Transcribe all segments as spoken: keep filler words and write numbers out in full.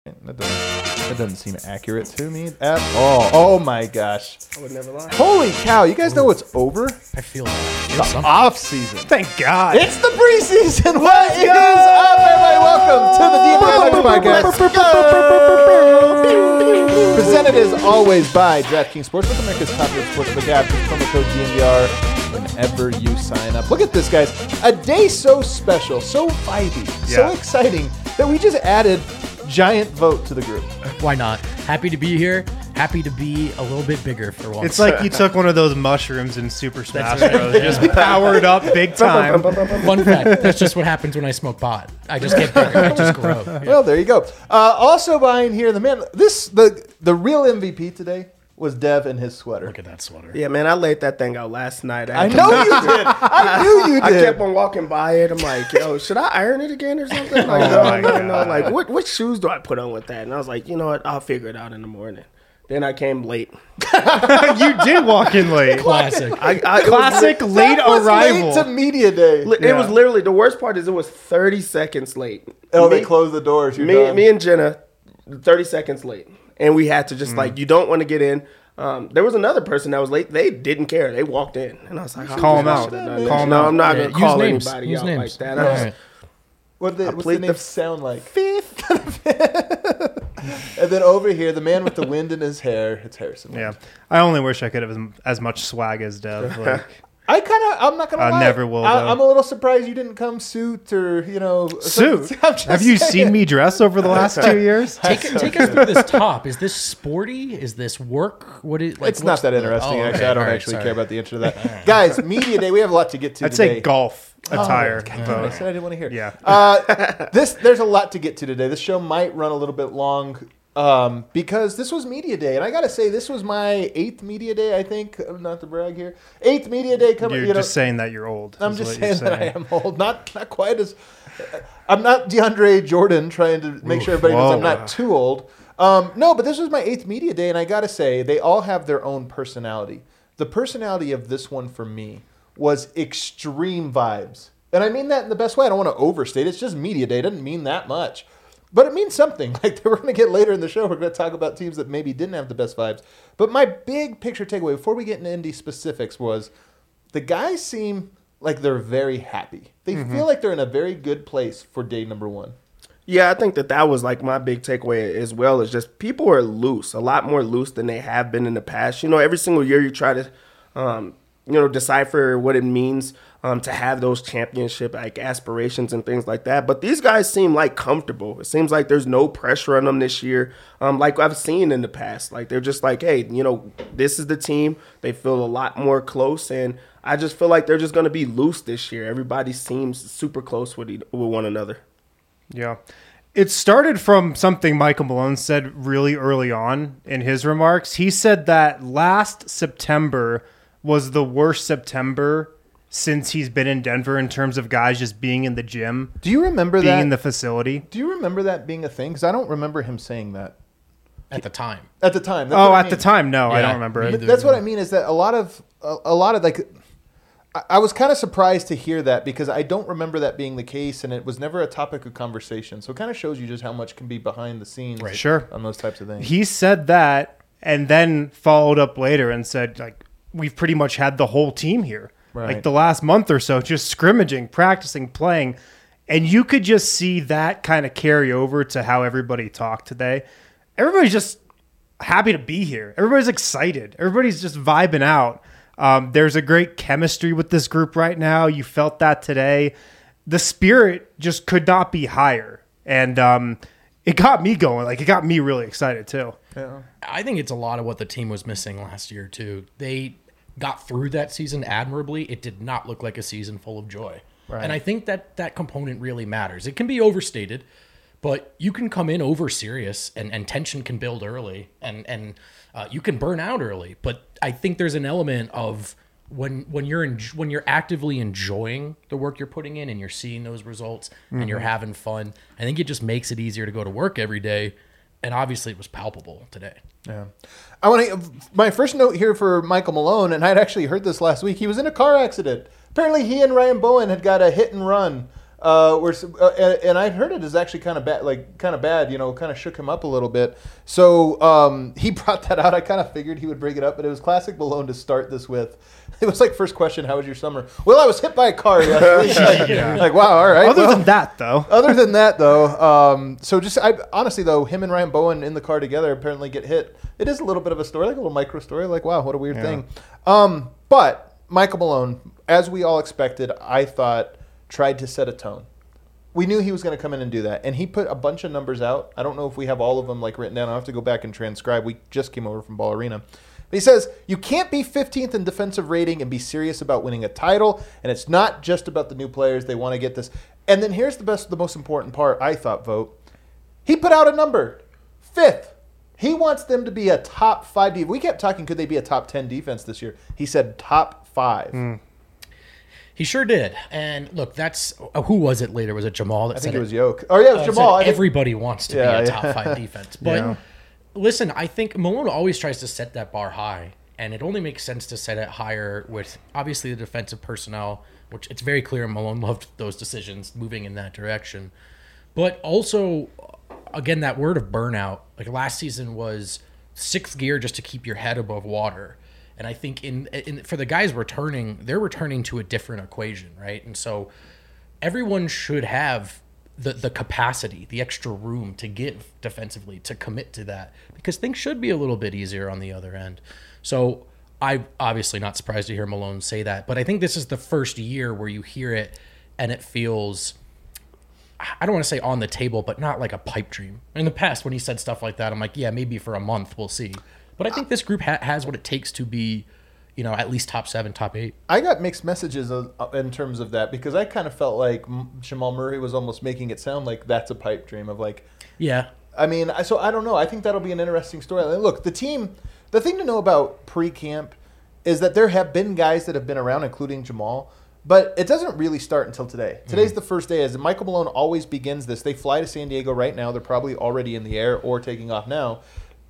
That doesn't, that doesn't seem accurate to me at all. Oh my gosh. I would never lie. Holy cow. You guys know what's over? I feel that. The off season. Thank God. It's the preseason. What is up, everybody? Welcome to the D N R Podcast. Presented as always by DraftKings Sportsbook, America's top rated sportsbook app. Use promo code D N V R whenever you sign up. Look at this, guys. A day so special, so vibey, so Yeah. exciting that we just added giant vote to the group. Why not? Happy to be here. Happy to be a little bit bigger for once. It's like you took one of those mushrooms in Super Smash right. Bros. Just powered up big time. Fun fact. That's just what happens when I smoke pot. I just get bigger. I just grow. Yeah. Well, there you go. Uh, also behind here, the man, this the the real M V P today was Dev in his sweater. Look at that sweater. Yeah, man, I laid that thing out last night. I know you did. I knew you I did. kept on walking by it. I'm like, yo, should I iron it again or something? Like, Oh no, my no, no. God. Like, what what shoes do I put on with that? And I was like, you know what? I'll figure it out in the morning. Then I came late. You did walk in late. Classic. I, I, Classic It was, late That was arrival. late to media day. li- it Yeah. was literally, the worst part is it was thirty seconds late. Oh, me, they closed the doors. You're me, done. me and Jenna, thirty seconds late. And we had to just Mm. like, you don't want to get in. Um, there was another person that was late. They didn't care. They walked in. And I was like, oh, Call 'em I out. should've done Call this. 'em No, out. I'm not Yeah, going to use call names. anybody Use out names. like that. All I was- right. What did the, what's the plead name the sound like? Fifth. And then over here, the man with the wind in his hair. It's Harrison. Yeah. I only wish I could have as, as much swag as Dev. Like, I kind of, I'm not going to I lie. never will, I, though. I'm a little surprised you didn't come suit or, you know. suit. I'm just Have you saying. seen me dress over the last two years? Take, take us through this top. Is this sporty? Is this work? What is? Like, It's not what's that the- interesting, oh, actually. okay. I don't All right, actually sorry. care about the intro to that. Guys, Media Day, we have a lot to get to I'd today. say golf attire. Oh, God, vote. I said I didn't want to hear. Yeah. Uh, this there's a lot to get to today. This show might run a little bit long um, because this was Media Day, and I gotta say this was my eighth Media Day. I think, not to brag here, eighth Media Day coming. You're You know, just saying that you're old. I'm is just what you're saying that I am old. Not not quite as. I'm not DeAndre Jordan trying to make sure everybody knows I'm Whoa. not too old. Um, no, but this was my eighth Media Day, and I gotta say they all have their own personality. The personality of this one for me was extreme vibes. And I mean that in the best way. I don't want to overstate it. It's just Media Day. It doesn't mean that much. But it means something. Like, we're going to get later in the show, we're going to talk about teams that maybe didn't have the best vibes. But my big picture takeaway, before we get into Indy specifics, was the guys seem like they're very happy. They feel like they're in a very good place for day number one. Yeah, I think that that was like my big takeaway as well. Is just people are loose, a lot more loose than they have been in the past. You know, every single year you try to, um, you know, decipher what it means um, to have those championship like aspirations and things like that. But these guys seem like comfortable. It seems like there's no pressure on them this year, um, like I've seen in the past. Like they're just like, hey, you know, this is the team. They feel a lot more close, and I just feel like they're just going to be loose this year. Everybody seems super close with e- with one another. Yeah. It started from something Michael Malone said really early on in his remarks. He said that last September was the worst September since he's been in Denver in terms of guys just being in the gym, Do you remember being that? in the facility. Do you remember that being a thing? Because I don't remember him saying that At the time. at the time. That's Oh, what I at the mean. time, no, I Yeah, don't remember me it. either. That's what I mean is that a lot of a, a lot of like I, I was kind of surprised to hear that because I don't remember that being the case and it was never a topic of conversation. So it kind of shows you just how much can be behind the scenes Right. Sure. on those types of things. He said that and then followed up later and said, like, we've pretty much had the whole team here. Right. Like the last month or so, just scrimmaging, practicing, playing. And you could just see that kind of carry over to how everybody talked today. Everybody's just happy to be here. Everybody's excited. Everybody's just vibing out. Um, there's a great chemistry with this group right now. You felt that today. The spirit just could not be higher. And um, it got me going. Like, it got me really excited too. Yeah. I think it's a lot of what the team was missing last year, too. They got through that season admirably. It did not look like a season full of joy. Right. And I think that that component really matters. It can be overstated, but you can come in over serious and, and tension can build early and, and uh, you can burn out early. But I think there's an element of when when you're in, when you're actively enjoying the work you're putting in and you're seeing those results Mm-hmm. and you're having fun, I think it just makes it easier to go to work every day. And obviously it was palpable today. Yeah. I want to my first note here for Michael Malone, and I'd actually heard this last week. He was in a car accident. Apparently he and Ryan Bowen had got a hit and run Uh, where, uh, and, and I heard it is actually kind of bad, like kind of bad, you know, kind of shook him up a little bit. So um, he brought that out. I kind of figured he would bring it up, but it was classic Malone to start this with. It was like, first question, how was your summer? Well, I was hit by a car yesterday. like, Yeah. like, wow, all right. Other well, than that, though, Other than that, though, um, so just I, honestly, though, him and Ryan Bowen in the car together apparently get hit. It is a little bit of a story, like a little micro story. Like, wow, what a weird Yeah. thing. Um, but Michael Malone, as we all expected, I thought, tried to set a tone. We knew he was going to come in and do that, and he put a bunch of numbers out. I don't know if we have all of them like written down. I'll have to go back and transcribe. We just came over from Ball Arena. But he says, you can't be fifteenth in defensive rating and be serious about winning a title, and it's not just about the new players. They want to get this. And then here's the best, the most important part, I thought, Vote. He put out a number, fifth. He wants them to be a top five. De- we kept talking, could they be a top ten defense this year? He said top five. Mm. He sure did. And look, that's uh, who was it later? Was it Jamal that I said think it was Yoke. Oh, yeah, it was uh, Jamal. I said think- everybody wants to Yeah, be a yeah. top five defense. But Yeah. listen, I think Malone always tries to set that bar high, and it only makes sense to set it higher with obviously the defensive personnel, which it's very clear Malone loved those decisions moving in that direction. But also, again, that word of burnout, like last season was sixth gear just to keep your head above water. And I think in, in for the guys returning, they're returning to a different equation, right? And so everyone should have the the capacity, the extra room to give defensively, to commit to that, because things should be a little bit easier on the other end. So I'm obviously not surprised to hear Malone say that, but I think this is the first year where you hear it and it feels, I don't want to say on the table, but not like a pipe dream. In the past, when he said stuff like that, I'm like, yeah, maybe for a month, we'll see. But I think this group ha- has what it takes to be, you know, at least top seven, top eight. I got mixed messages of, uh, in terms of that because I kind of felt like M- Jamal Murray was almost making it sound like that's a pipe dream of like, Yeah. I mean, I- so I don't know. I think that'll be an interesting story. And look, the team, the thing to know about pre-camp is that there have been guys that have been around, including Jamal, but it doesn't really start until today. Today's mm-hmm. the first day. As Michael Malone always begins this, they fly to San Diego right now. They're probably already in the air or taking off now.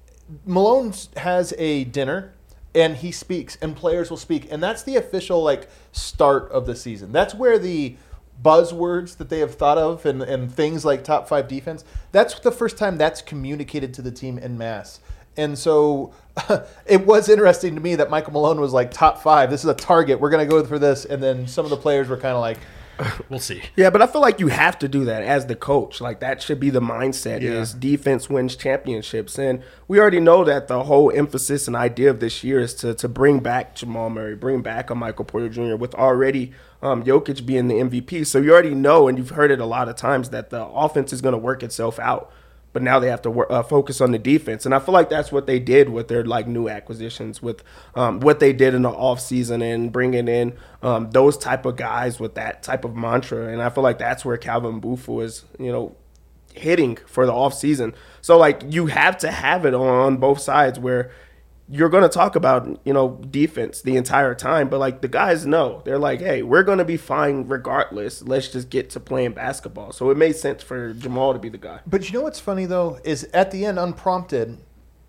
Malone has a dinner and he speaks and players will speak, and that's the official like start of the season. That's where the buzzwords that they have thought of and, and things like top five defense, that's the first time that's communicated to the team en masse. And so it was interesting to me that Michael Malone was like top five. This is a target. We're going to go for this. And then some of the players were kind of like, we'll see. Yeah, but I feel like you have to do that as the coach. Like that should be the mindset Yeah. is defense wins championships. And we already know that the whole emphasis and idea of this year is to to bring back Jamal Murray, bring back a Michael Porter Junior with already um, Jokic being the M V P. So you already know, and you've heard it a lot of times, that the offense is going to work itself out. But now they have to work, uh, focus on the defense. And I feel like that's what they did with their like new acquisitions, with um, what they did in the offseason and bringing in um, those type of guys with that type of mantra. And I feel like that's where Calvin Booth is, you know, hitting for the offseason. So, like, you have to have it on both sides where you're going to talk about, you know, defense the entire time. But, like, the guys know. They're like, hey, we're going to be fine regardless. Let's just get to playing basketball. So it made sense for Jamal to be the guy. but you know what's funny, though, is at the end, unprompted,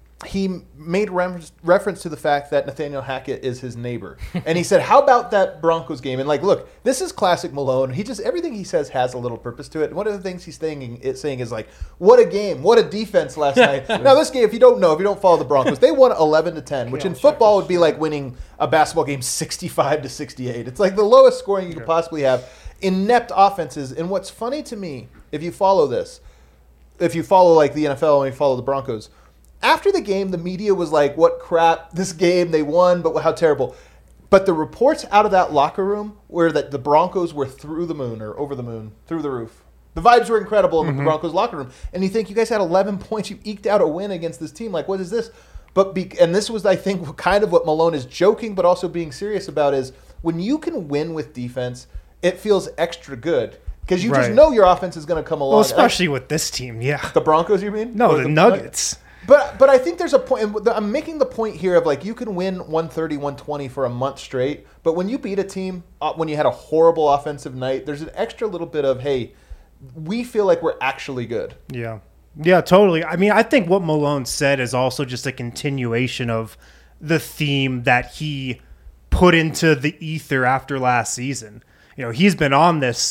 he made reference, reference to the fact that Nathaniel Hackett is his neighbor. And he said, how about that Broncos game? And, like, look, this is classic Malone. He just, everything he says has a little purpose to it. And one of the things he's saying, is, saying is, like, what a game. What a defense last night. Now, this game, if you don't know, if you don't follow the Broncos, they won eleven to ten, which in football would be like winning a basketball game sixty-five to sixty-eight. It's like the lowest scoring you could possibly have. Inept offenses. And what's funny to me, if you follow this, if you follow, like, the N F L and you follow the Broncos, after the game, the media was like, what crap, this game, they won, but how terrible. But the reports out of that locker room were that the Broncos were through the moon or over the moon, through the roof. The vibes were incredible in mm-hmm. the Broncos locker room. And you think, you guys had eleven points, you eked out a win against this team. Like, what is this? But be, And this was, I think, kind of what Malone is joking but also being serious about is when you can win with defense, it feels extra good. Because you Right. just know your offense is going to come along. Well, especially with this team, yeah. The Broncos, you mean? No, Or the Nuggets. But but I think there's a point. And I'm making the point here of like you can win one thirty, one twenty for a month straight. But when you beat a team, uh, when you had a horrible offensive night, there's an extra little bit of, hey, we feel like we're actually good. Yeah. Yeah, totally. I mean, I think what Malone said is also just a continuation of the theme that he put into the ether after last season. You know, he's been on this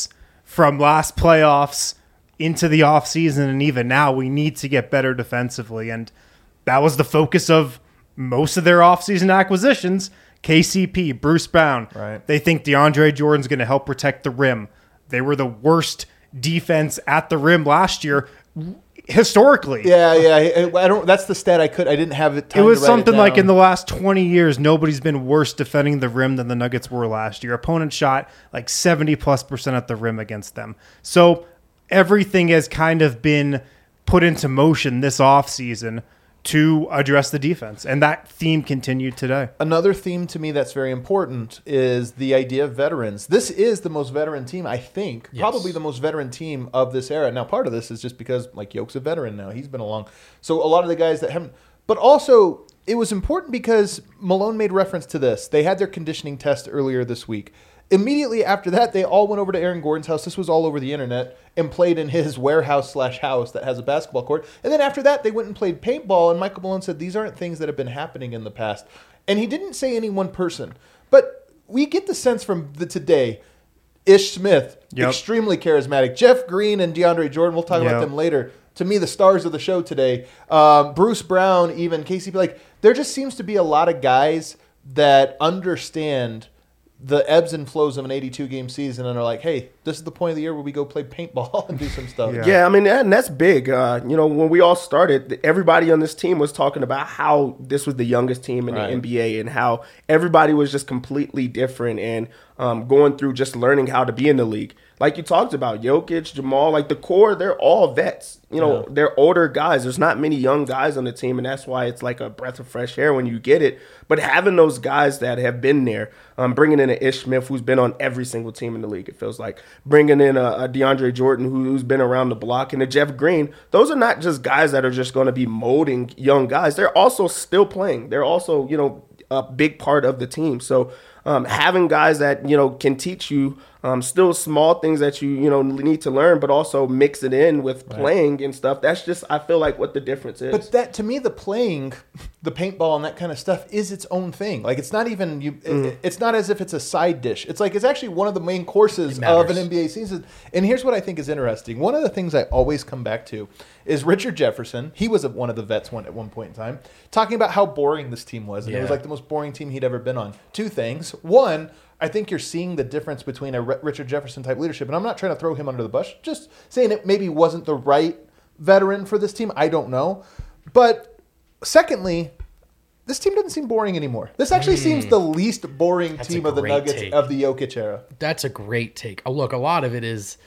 from last playoffs into the offseason and even now, we need to get better defensively. And that was the focus of most of their offseason acquisitions. K C P, Bruce Brown. Right. They think DeAndre Jordan's going to help protect the rim. They were the worst defense at the rim last year, historically. Yeah, yeah. I don't. That's the stat I could. I didn't have it. It was something like in the last twenty years, nobody's been worse defending the rim than the Nuggets were last year. Opponent shot like seventy plus percent at the rim against them. So everything has kind of been put into motion this offseason to address the defense. And that theme continued today. Another theme to me that's very important is the idea of veterans. This is the most veteran team, I think, yes. probably the most veteran team of this era. Now, part of this is just because, like, Yoke's a veteran now. He's been along. So a lot of the guys that haven't... But also, it was important because Malone made reference to this. They had their conditioning test earlier this week. Immediately after that, they all went over to Aaron Gordon's house. This was all over the internet, and played in his warehouse slash house that has a basketball court. And then after that, they went and played paintball, and Michael Malone said, these aren't things that have been happening in the past. And he didn't say any one person. But we get the sense from the today, Ish Smith, yep. extremely charismatic. Jeff Green and DeAndre Jordan, we'll talk yep. about them later. To me, the stars of the show today. Um, Bruce Brown, even K C P. Like, there just seems to be a lot of guys that understand the ebbs and flows of an eighty-two game season and are like, hey, this is the point of the year where we go play paintball and do some stuff. Yeah, yeah I mean, and that's big. Uh, you know, when we all started, everybody on this team was talking about how this was the youngest team in right. the N B A and how everybody was just completely different and um, going through just learning how to be in the league. Like you talked about, Jokic, Jamal, like the core, they're all vets. You know, yeah. they're older guys. There's not many young guys on the team, and that's why it's like a breath of fresh air when you get it. But having those guys that have been there, um, bringing in an Ish Smith who's been on every single team in the league, it feels like, bringing in a, a DeAndre Jordan who's been around the block, and a Jeff Green, those are not just guys that are just going to be molding young guys. They're also still playing. They're also, you know, a big part of the team. So um, having guys that, you know, can teach you Um, still small things that you, you know, need to learn, but also mix it in with right. playing and stuff. That's just, I feel like, what the difference is. But that, to me, the playing, the paintball and that kind of stuff is its own thing. Like, it's not even, you. Mm. It, it's not as if it's a side dish. It's like, it's actually one of the main courses of an N B A season. And here's what I think is interesting. One of the things I always come back to is Richard Jefferson. He was one of the vets one at one point in time, talking about how boring this team was. And yeah. it was like the most boring team he'd ever been on. Two things. One, I think you're seeing the difference between a Richard Jefferson type leadership, and I'm not trying to throw him under the bus, just saying it maybe wasn't the right veteran for this team. I don't know. But secondly, this team doesn't seem boring anymore. This actually mm. seems the least boring That's team of the Nuggets take. of the Jokic era. That's a great take. Oh, look, a lot of it is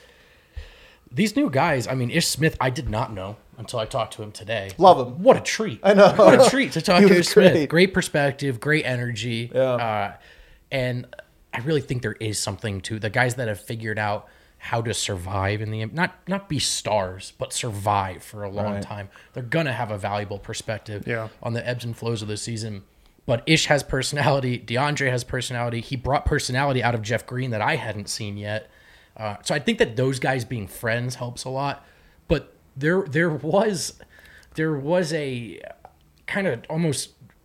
these new guys. I mean, Ish Smith, I did not know until I talked to him today. Love him. What a treat. I know. What a treat to talk to Ish great. Smith. Great perspective, great energy. Yeah. Uh, and I really think there is something to the guys that have figured out how to survive in the not not be stars, but survive for a long right. time. They're gonna have a valuable perspective yeah. on the ebbs and flows of the season. But Ish has personality. DeAndre has personality. He brought personality out of Jeff Green that I hadn't seen yet. Uh, so I think that those guys being friends helps a lot. But there there was there was a kind of almost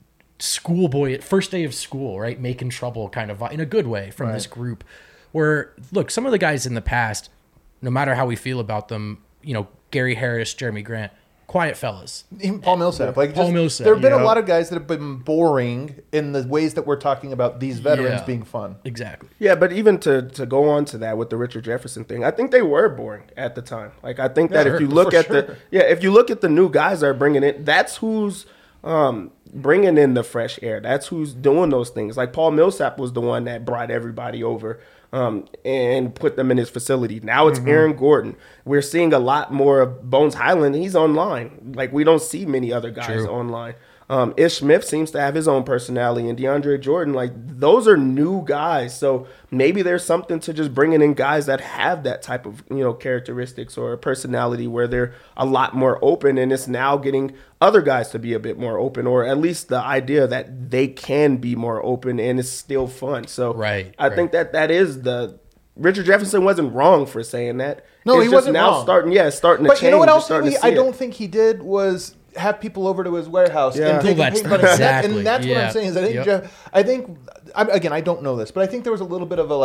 schoolboy first day of school, right? Making trouble kind of in a good way from right. this group where, look, some of the guys in the past, no matter how we feel about them, you know, Gary Harris, Jeremy Grant, quiet fellas. Even Paul Millsap. Like Paul just, Millsap. There have been yeah. a lot of guys that have been boring in the ways that we're talking about these veterans yeah, being fun. Exactly. Yeah, but even to, to go on to that with the Richard Jefferson thing, I think they were boring at the time. Like, I think that yeah, if you look at sure. the, yeah, if you look at the new guys that are bringing it, that's who's um, bringing in the fresh air. That's who's doing those things. Like Paul Millsap was the one that brought everybody over um, and put them in his facility. Now it's mm-hmm. Aaron Gordon. We're seeing a lot more of Bones Highland. He's online. Like, we don't see many other guys True. online. Um, Ish Smith seems to have his own personality, and DeAndre Jordan, like, those are new guys. So maybe there's something to just bringing in guys that have that type of, you know, characteristics or personality where they're a lot more open, and it's now getting other guys to be a bit more open, or at least the idea that they can be more open and it's still fun. So right, I right. think that that is the Richard Jefferson wasn't wrong for saying that. No, it's he just wasn't now wrong. starting, yeah, starting to but change. You know what You're else starting he, to see I don't it. think he did was have people over to his warehouse Yeah. and take Well, a that's- paint bunny. exactly. And that's what Yeah. I'm saying is I think Yep. Jeff, I think I, again I don't know this, but I think there was a little bit of a like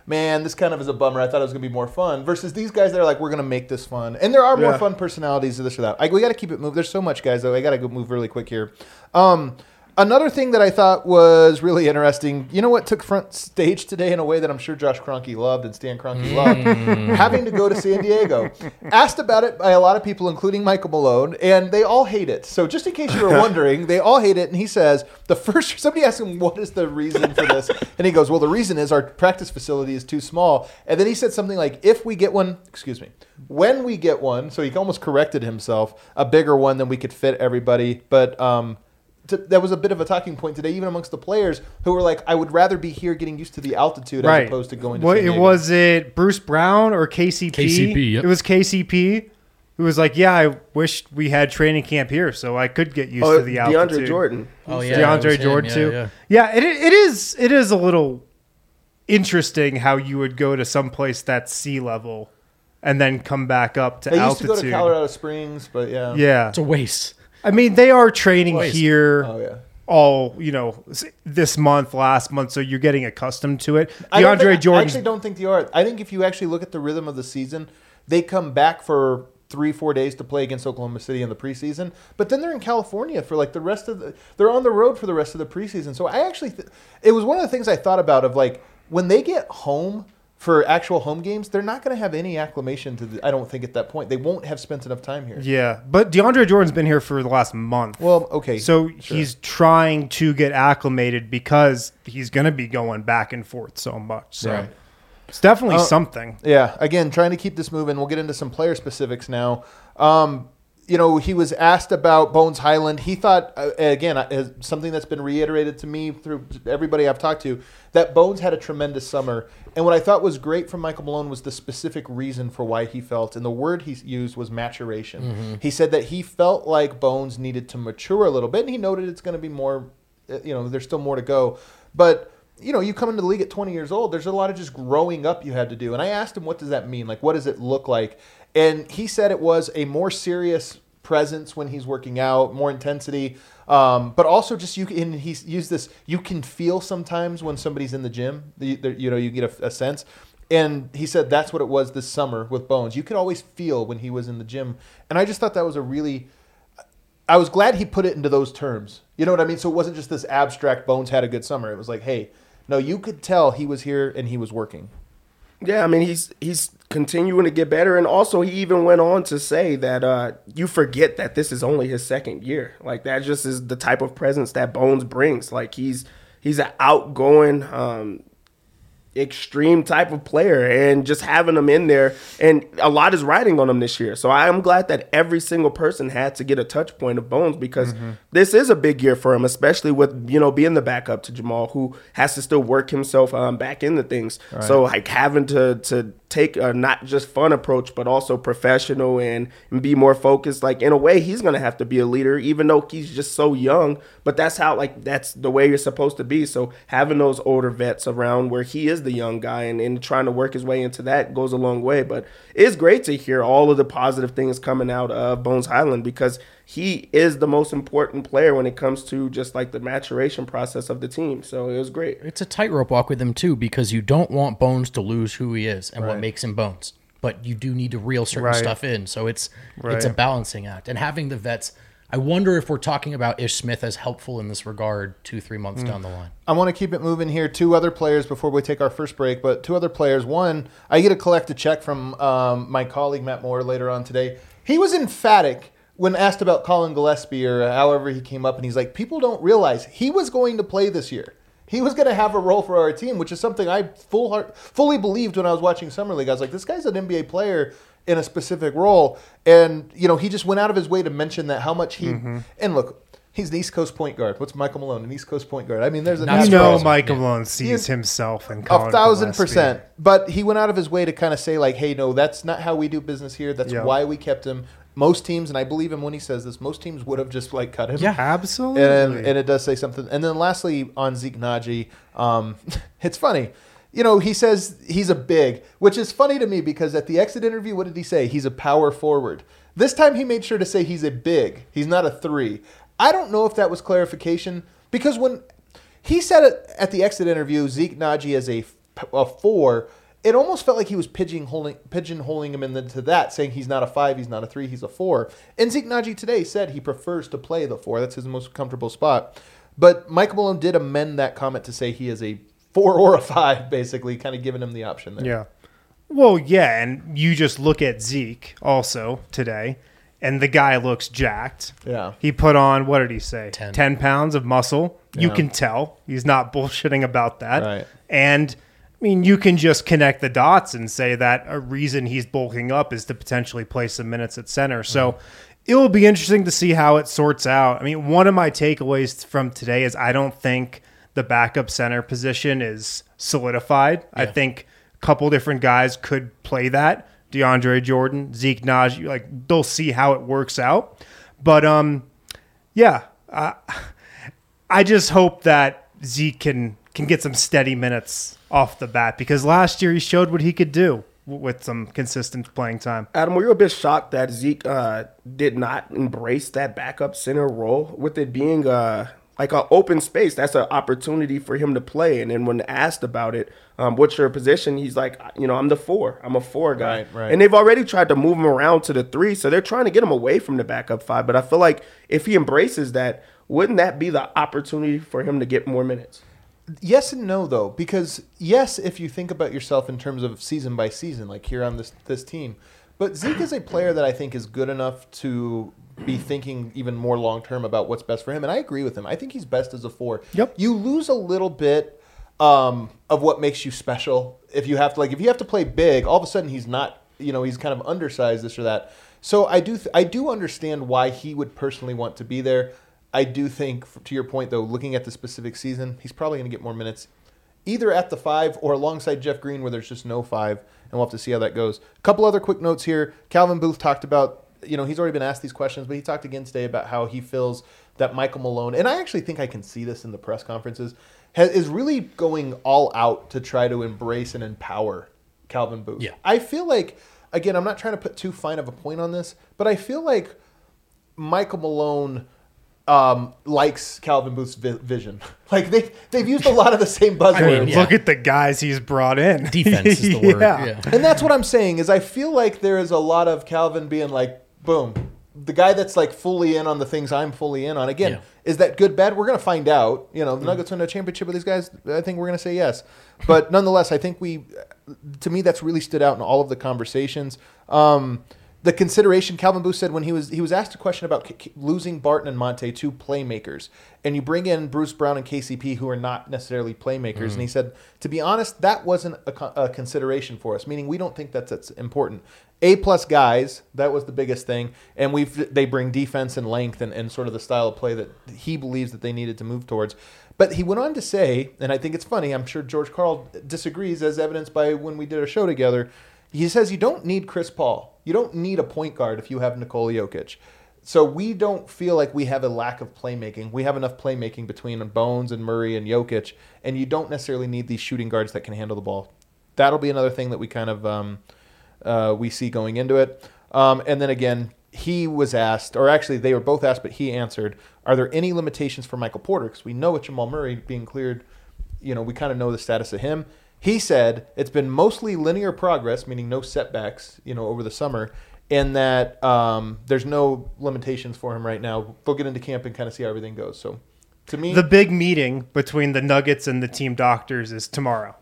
man, this kind of is a bummer. I thought it was going to be more fun. Versus these guys that are like, we're going to make this fun. And there are more Yeah. fun personalities of this or that. I, we got to keep it moving. There's so much, guys, though. I got to go move really quick here. Um, Another thing that I thought was really interesting, you know what took front stage today in a way that I'm sure Josh Kroenke loved and Stan Kroenke loved? Having to go to San Diego. Asked about it by a lot of people, including Michael Malone, and they all hate it. So just in case you were wondering, they all hate it. And he says, the first, somebody asked him, what is the reason for this? And he goes, well, the reason is our practice facility is too small. And then he said something like, if we get one, excuse me, when we get one, so he almost corrected himself, a bigger one, then we could fit everybody. But, um, To, that was a bit of a talking point today, even amongst the players who were like, I would rather be here getting used to the altitude Right. as opposed to going to What San Diego. was it? Bruce Brown or K C P? K C P, yep. It was K C P who was like, "Yeah, I wish we had training camp here so I could get used Oh, to the altitude." DeAndre Jordan. Oh yeah, DeAndre it was him. Jordan Yeah, too. yeah. Yeah, it it is it is a little interesting how you would go to some place that's sea level and then come back up to They used altitude. to go to Colorado Springs, but yeah. Yeah, It's a waste. I mean they are training Waste. here. Oh, yeah. All you know, s- this month, last month, so you're getting accustomed to it. I don't DeAndre think- Jordan. I actually don't think they are. I think if you actually look at the rhythm of the season, they come back for three, four days to play against Oklahoma City in the preseason, but then they're in California for like the rest of the. They're on the road for the rest of the preseason. So I actually, th- it was one of the things I thought about of like when they get home for actual home games, they're not going to have any acclimation to the. I don't think at that point they won't have spent enough time here. Yeah, but DeAndre Jordan's been here for the last month. Well, okay. So sure. he's trying to get acclimated because he's going to be going back and forth so much. So Right. it's definitely Uh, something. Yeah, again, trying to keep this moving. We'll get into some player specifics now. Um, you know, he was asked about Bones Highland. He thought, uh, again, uh, something that's been reiterated to me through everybody I've talked to, that Bones had a tremendous summer. And what I thought was great from Michael Malone was the specific reason for why he felt, and the word he used was maturation. Mm-hmm. He said that he felt like Bones needed to mature a little bit, and he noted it's going to be more, uh, you know, there's still more to go. But you know, you come into the league at twenty years old, there's a lot of just growing up you had to do. And I asked him, what does that mean? Like, what does it look like? And he said it was a more serious presence when he's working out, more intensity, um, but also just you. And he used this. You can feel sometimes when somebody's in the gym. The, the, you know, you get a, a sense. And he said that's what it was this summer with Bones. You could always feel when he was in the gym. And I just thought that was a really. I was glad he put it into those terms. You know what I mean? So it wasn't just this abstract Bones had a good summer. It was like, hey, no, you could tell he was here and he was working. Yeah, I mean he's he's continuing to get better, and also he even went on to say that uh, you forget that this is only his second year. Like that just is the type of presence that Bones brings. Like he's he's an outgoing, um, extreme type of player, and just having him in there, and a lot is riding on him this year. So I am glad that every single person had to get a touch point of Bones because mm-hmm. this is a big year for him, especially with, you know, being the backup to Jamal, who has to still work himself um, back into things. Right. So like having to to take a not just fun approach, but also professional and, and be more focused. Like in a way, he's going to have to be a leader, even though he's just so young. But that's how, like, that's the way you're supposed to be. So having those older vets around where he is the young guy and, and trying to work his way into that goes a long way. But it's great to hear all of the positive things coming out of Bones Highland because he is the most important player when it comes to just like the maturation process of the team. So it was great. It's a tightrope walk with him too, because you don't want Bones to lose who he is and right. what makes him Bones, but you do need to reel certain right. stuff in. So it's right. it's a balancing act. And having the vets, I wonder if we're talking about Ish Smith as helpful in this regard two, three months mm. down the line. I want to keep it moving here. Two other players before we take our first break, but two other players. One, I get to collect a check from um, my colleague Matt Moore later on today. He was emphatic when asked about Colin Gillespie or however he came up, and he's like, people don't realize he was going to play this year. He was going to have a role for our team, which is something I full heart, fully believed when I was watching Summer League. I was like, this guy's an N B A player in a specific role. And, you know, he just went out of his way to mention that how much he mm-hmm. – and look, he's an East Coast point guard. What's Michael Malone, an East Coast point guard? I mean, there's a – You know Michael Malone sees himself in Colin A thousand Gillespie. percent. But he went out of his way to kind of say, like, hey, no, that's not how we do business here. That's yeah. why we kept him. Most teams, and I believe him when he says this, most teams would have just like cut him. Yeah, absolutely. And, and it does say something. And then lastly, on Zeke Naji, um, it's funny. You know, he says he's a big, which is funny to me because at the exit interview, what did he say? He's a power forward. This time he made sure to say he's a big. He's not a three. I don't know if that was clarification because when he said it at the exit interview, Zeke Naji is a a four, it almost felt like he was pigeonholing, pigeonholing him into that, saying he's not a five, he's not a three, he's a four. And Zeke Naji today said he prefers to play the four. That's his most comfortable spot. But Michael Malone did amend that comment to say he is a four or a five, basically, kind of giving him the option there. Yeah. Well, yeah, and you just look at Zeke also today, and the guy looks jacked. Yeah. He put on, what did he say? ten. ten pounds of muscle. You Yeah. can tell. He's not bullshitting about that. Right. And, I mean, you can just connect the dots and say that a reason he's bulking up is to potentially play some minutes at center. So it will be interesting to see how it sorts out. I mean, one of my takeaways from today is I don't think the backup center position is solidified. I think a couple different guys could play that. DeAndre Jordan, Zeke Naji, like they'll see how it works out. But um, yeah, uh, I just hope that Zeke can can get some steady minutes off the bat because last year he showed what he could do w- with some consistent playing time. Adam, were you a bit shocked that Zeke uh, did not embrace that backup center role with it being uh, like an open space? That's an opportunity for him to play. And then when asked about it, um, what's your position? He's like, you know, I'm the four. I'm a four guy. Right, right. And they've already tried to move him around to the three, so they're trying to get him away from the backup five. But I feel like if he embraces that, wouldn't that be the opportunity for him to get more minutes? Yes and no, though, because yes, if you think about yourself in terms of season by season, like here on this this team, but Zeke is a player that I think is good enough to be thinking even more long term about what's best for him, and I agree with him. I think he's best as a four. Yep. You lose a little bit um, of what makes you special if you have to like if you have to play big. All of a sudden, he's not. You know, he's kind of undersized, this or that. So I do th- I do understand why he would personally want to be there. I do think, to your point, though, looking at the specific season, he's probably going to get more minutes either at the five or alongside Jeff Green where there's just no five, and we'll have to see how that goes. A couple other quick notes here. Calvin Booth talked about, you know, he's already been asked these questions, but he talked again today about how he feels that Michael Malone, and I actually think I can see this in the press conferences, has, is really going all out to try to embrace and empower Calvin Booth. Yeah. I feel like, again, I'm not trying to put too fine of a point on this, but I feel like Michael Malone um, likes Calvin Booth's vi- vision. Like they've they've used a lot of the same buzzwords. I mean, yeah. Look at the guys he's brought in. Defense is the word. Yeah. Yeah. And that's what I'm saying is I feel like there is a lot of Calvin being like, boom, the guy that's like fully in on the things I'm fully in on. Again, Yeah. is that good, bad? We're going to find out. You know, the Nuggets win a championship with these guys. I think we're going to say yes. But nonetheless, I think we, to me, that's really stood out in all of the conversations. Um, the consideration, Calvin Booth said when he was he was asked a question about k- k- losing Barton and Monte, two playmakers, and you bring in Bruce Brown and K C P, who are not necessarily playmakers, and he said, to be honest, that wasn't a, co- a consideration for us, meaning we don't think that's, that's important. A-plus guys, that was the biggest thing, and we've they bring defense and length and, and sort of the style of play that he believes that they needed to move towards. But he went on to say, and I think it's funny, I'm sure George Karl disagrees, as evidenced by when we did a show together, he says you don't need Chris Paul. You don't need a point guard if you have Nikola Jokic. So we don't feel like we have a lack of playmaking. We have enough playmaking between Bones and Murray and Jokic, and you don't necessarily need these shooting guards that can handle the ball. That'll be another thing that we kind of um, uh, we see going into it. Um, and then again, he was asked, or actually they were both asked, but he answered, are there any limitations for Michael Porter? Because we know with Jamal Murray being cleared, you know, we kind of know the status of him. He said it's been mostly linear progress, meaning no setbacks, you know, over the summer, and that um, there's no limitations for him right now. They'll get into camp and kind of see how everything goes. So, to me, The big meeting between the Nuggets and the team doctors is tomorrow.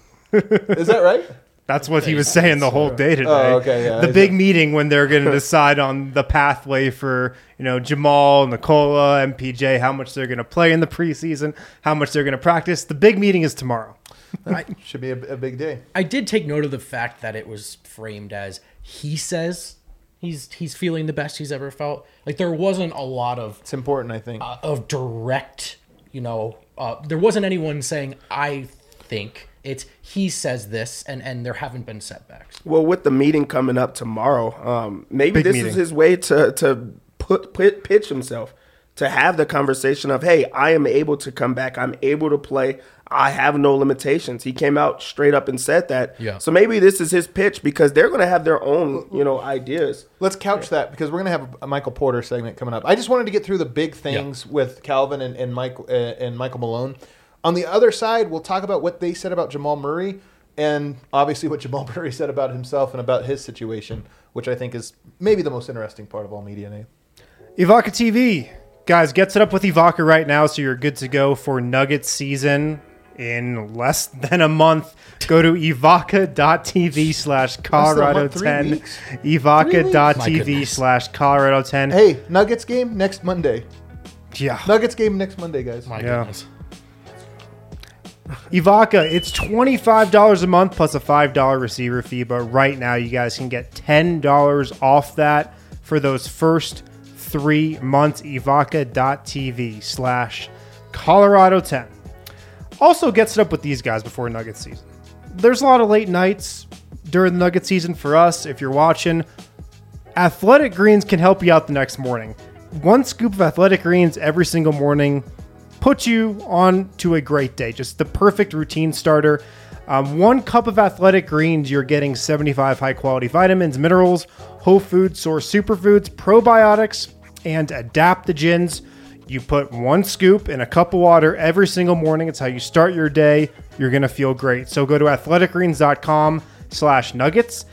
is that right? That's what he was saying the whole day today. Oh, okay, yeah. The Is big it- meeting when they're going to decide on the pathway for, you know, Jamal, Nikola, M P J, how much they're going to play in the preseason, how much they're going to practice. The big meeting is tomorrow. I, Should be a, a big day. I did take note of the fact that it was framed as he says he's he's feeling the best he's ever felt. Like there wasn't a lot of It's important, I think. uh, of direct, you know, uh, there wasn't anyone saying I think. It's he says this, and, and there haven't been setbacks. Well, with the meeting coming up tomorrow, um, maybe Big this meeting. is his way to to put, put pitch himself, to have the conversation of, hey, I am able to come back. I'm able to play. I have no limitations. He came out straight up and said that. Yeah. So maybe this is his pitch because they're going to have their own, you know, ideas. Let's couch that because we're going to have a Michael Porter segment coming up. I just wanted to get through the big things with Calvin and, and Mike uh, and Michael Malone. On the other side, we'll talk about what they said about Jamal Murray and obviously what Jamal Murray said about himself and about his situation, which I think is maybe the most interesting part of all media, Nate. Evoca T V. Guys, get set up with Evoca right now so you're good to go for Nuggets season in less than a month. Go to evoca.tv slash Colorado ten. Evoca.tv slash Colorado ten. Hey, Nuggets game next Monday. Yeah. Nuggets game next Monday, guys. My Yeah. goodness. Evoca, it's twenty-five dollars a month plus a five dollars receiver fee, but right now you guys can get ten dollars off that for those first three months. Evoca.tv slash Colorado ten. Also gets it up with these guys before Nugget season. There's a lot of late nights during the Nugget season for us. If you're watching, Athletic Greens can help you out the next morning. One scoop of Athletic Greens every single morning puts you on to a great day. Just the perfect routine starter. Um, one cup of Athletic Greens, you're getting seventy-five high-quality vitamins, minerals, whole food source superfoods, probiotics, and adaptogens. You put one scoop in a cup of water every single morning. It's how you start your day. You're going to feel great. So go to athleticgreens.com slash nuggets,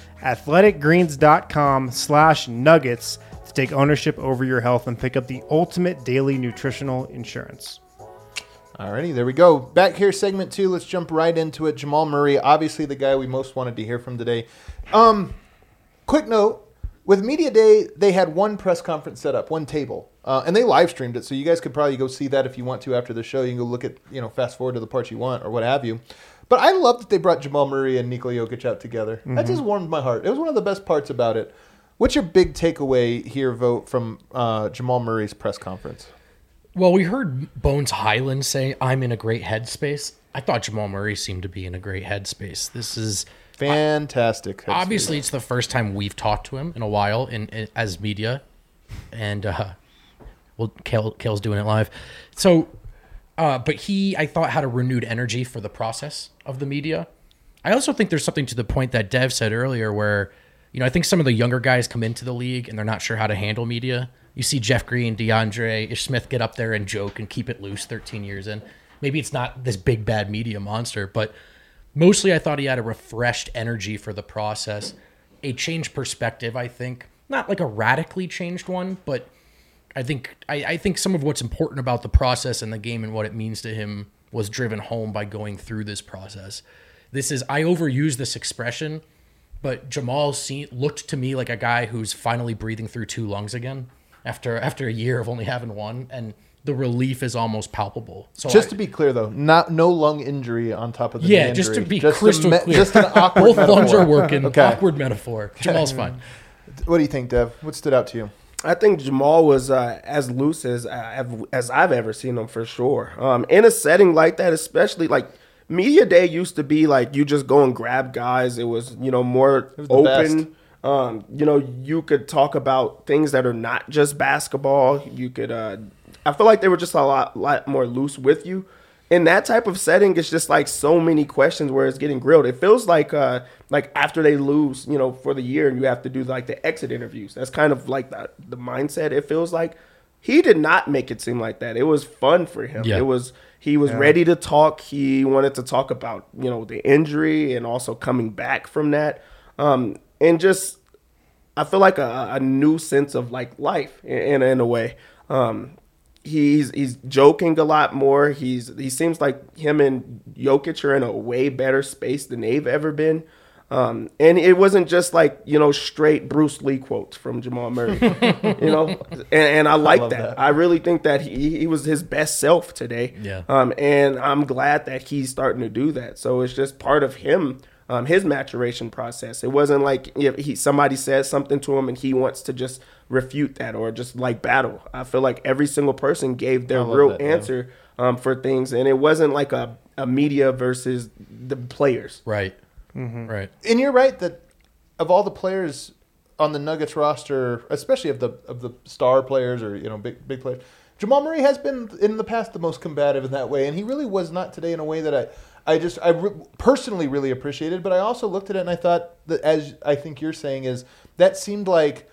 athleticgreens.com slash nuggets to take ownership over your health and pick up the ultimate daily nutritional insurance. Alrighty, there we go. Back here, segment two. Let's jump right into it. Jamal Murray, obviously the guy we most wanted to hear from today. Um, quick note, with Media Day, they had one press conference set up, one table, uh, and they live streamed it, so you guys could probably go see that if you want to after the show. You can go look at, you know, fast forward to the parts you want or what have you. But I love that they brought Jamal Murray and Nikola Jokic out together. Mm-hmm. That just warmed my heart. It was one of the best parts about it. What's your big takeaway here, Vote, from uh, Jamal Murray's press conference? Well, we heard Bones Highland say, I'm in a great headspace. I thought Jamal Murray seemed to be in a great headspace. This is fantastic. I, obviously, it's the first time we've talked to him in a while in, in as media. And, uh, well, Kale, Kale's doing it live. So, uh, but he, I thought, had a renewed energy for the process of the media. I also think there's something to the point that Dev said earlier where, you know, I think some of the younger guys come into the league and they're not sure how to handle media. You see Jeff Green, DeAndre, Ish Smith get up there and joke and keep it loose thirteen years in. Maybe it's not this big, bad media monster, but mostly I thought he had a refreshed energy for the process, a changed perspective, I think. Not like a radically changed one, but I think I, I think some of what's important about the process and the game and what it means to him was driven home by going through this process. This is, I overuse this expression, but Jamal see, looked to me like a guy who's finally breathing through two lungs again. After after a year of only having one, and the relief is almost palpable. So just I, to be clear, though, not no lung injury on top of the yeah, knee just injury. to be just crystal me- clear, just an awkward both metaphor. lungs are working. Okay. Awkward metaphor. Jamal's fine. What do you think, Dev? What stood out to you? I think Jamal was uh, as loose as I've, as I've ever seen him for sure. Um, in a setting like that, especially like Media Day used to be like you just go and grab guys. It was you know more was the open. best. Um, you know, you could talk about things that are not just basketball. You could, uh, I feel like they were just a lot, lot more loose with you. In that type of setting, it's just like so many questions where it's getting grilled. It feels like, uh, like after they lose, you know, for the year, and you have to do like the exit interviews. That's kind of like the, the mindset. It feels like he did not make it seem like that. It was fun for him. Yeah. It was, he was Yeah. ready to talk. He wanted to talk about, you know, the injury and also coming back from that. Um, And just, I feel like a, a new sense of like life in in a way. Um, he's he's joking a lot more. He's he seems like him and Jokic are in a way better space than they've ever been. Um, and it wasn't just like you know straight Bruce Lee quotes from Jamal Murray, you know. And, and I like love that. that. I really think that he he was his best self today. Yeah. Um, and I'm glad that he's starting to do that. So it's just part of him. Um, his maturation process. It wasn't like if he somebody says something to him and he wants to just refute that or just like battle. I feel like every single person gave their I love real that, yeah. answer um, for things, and it wasn't like a, a media versus the players. Right. Right. And you're right that of all the players on the Nuggets roster, especially of the of the star players or you know big big players, Jamal Murray has been in the past the most combative in that way, and he really was not today in a way that I. I just I re- personally really appreciated, but I also looked at it and I thought that, as I think you're saying, is that seemed like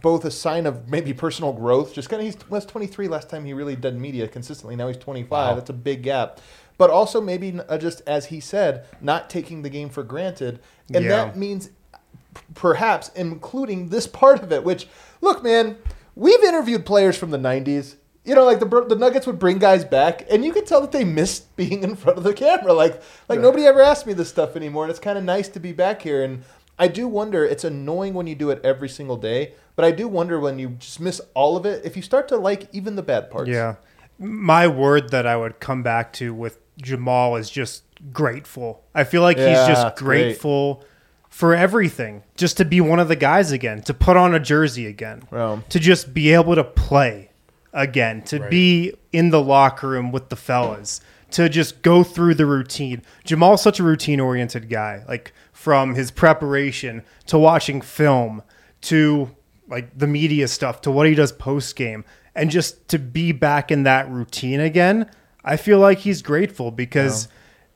both a sign of maybe personal growth. Just kind of he was twenty-three last time he really did media consistently. Now he's twenty-five. Wow. That's a big gap. But also maybe uh, just as he said, not taking the game for granted, and Yeah. that means p- perhaps including this part of it. Which, look, man, we've interviewed players from the nineties. You know, like the the Nuggets would bring guys back, and you could tell that they missed being in front of the camera. Like, like nobody ever asked me this stuff anymore, and it's kind of nice to be back here. And I do wonder. It's annoying when you do it every single day, but I do wonder when you just miss all of it. If you start to like even the bad parts. Yeah. My word that I would come back to with Jamal is just grateful. I feel like Yeah, he's just it's great. grateful for everything. Just to be one of the guys again, to put on a jersey again, Wow. to just be able to play again, to Right. be in the locker room with the fellas, to just go through the routine. Jamal's such a routine-oriented guy, like from his preparation to watching film to like the media stuff to what he does post-game, and just to be back in that routine again. I feel like he's grateful because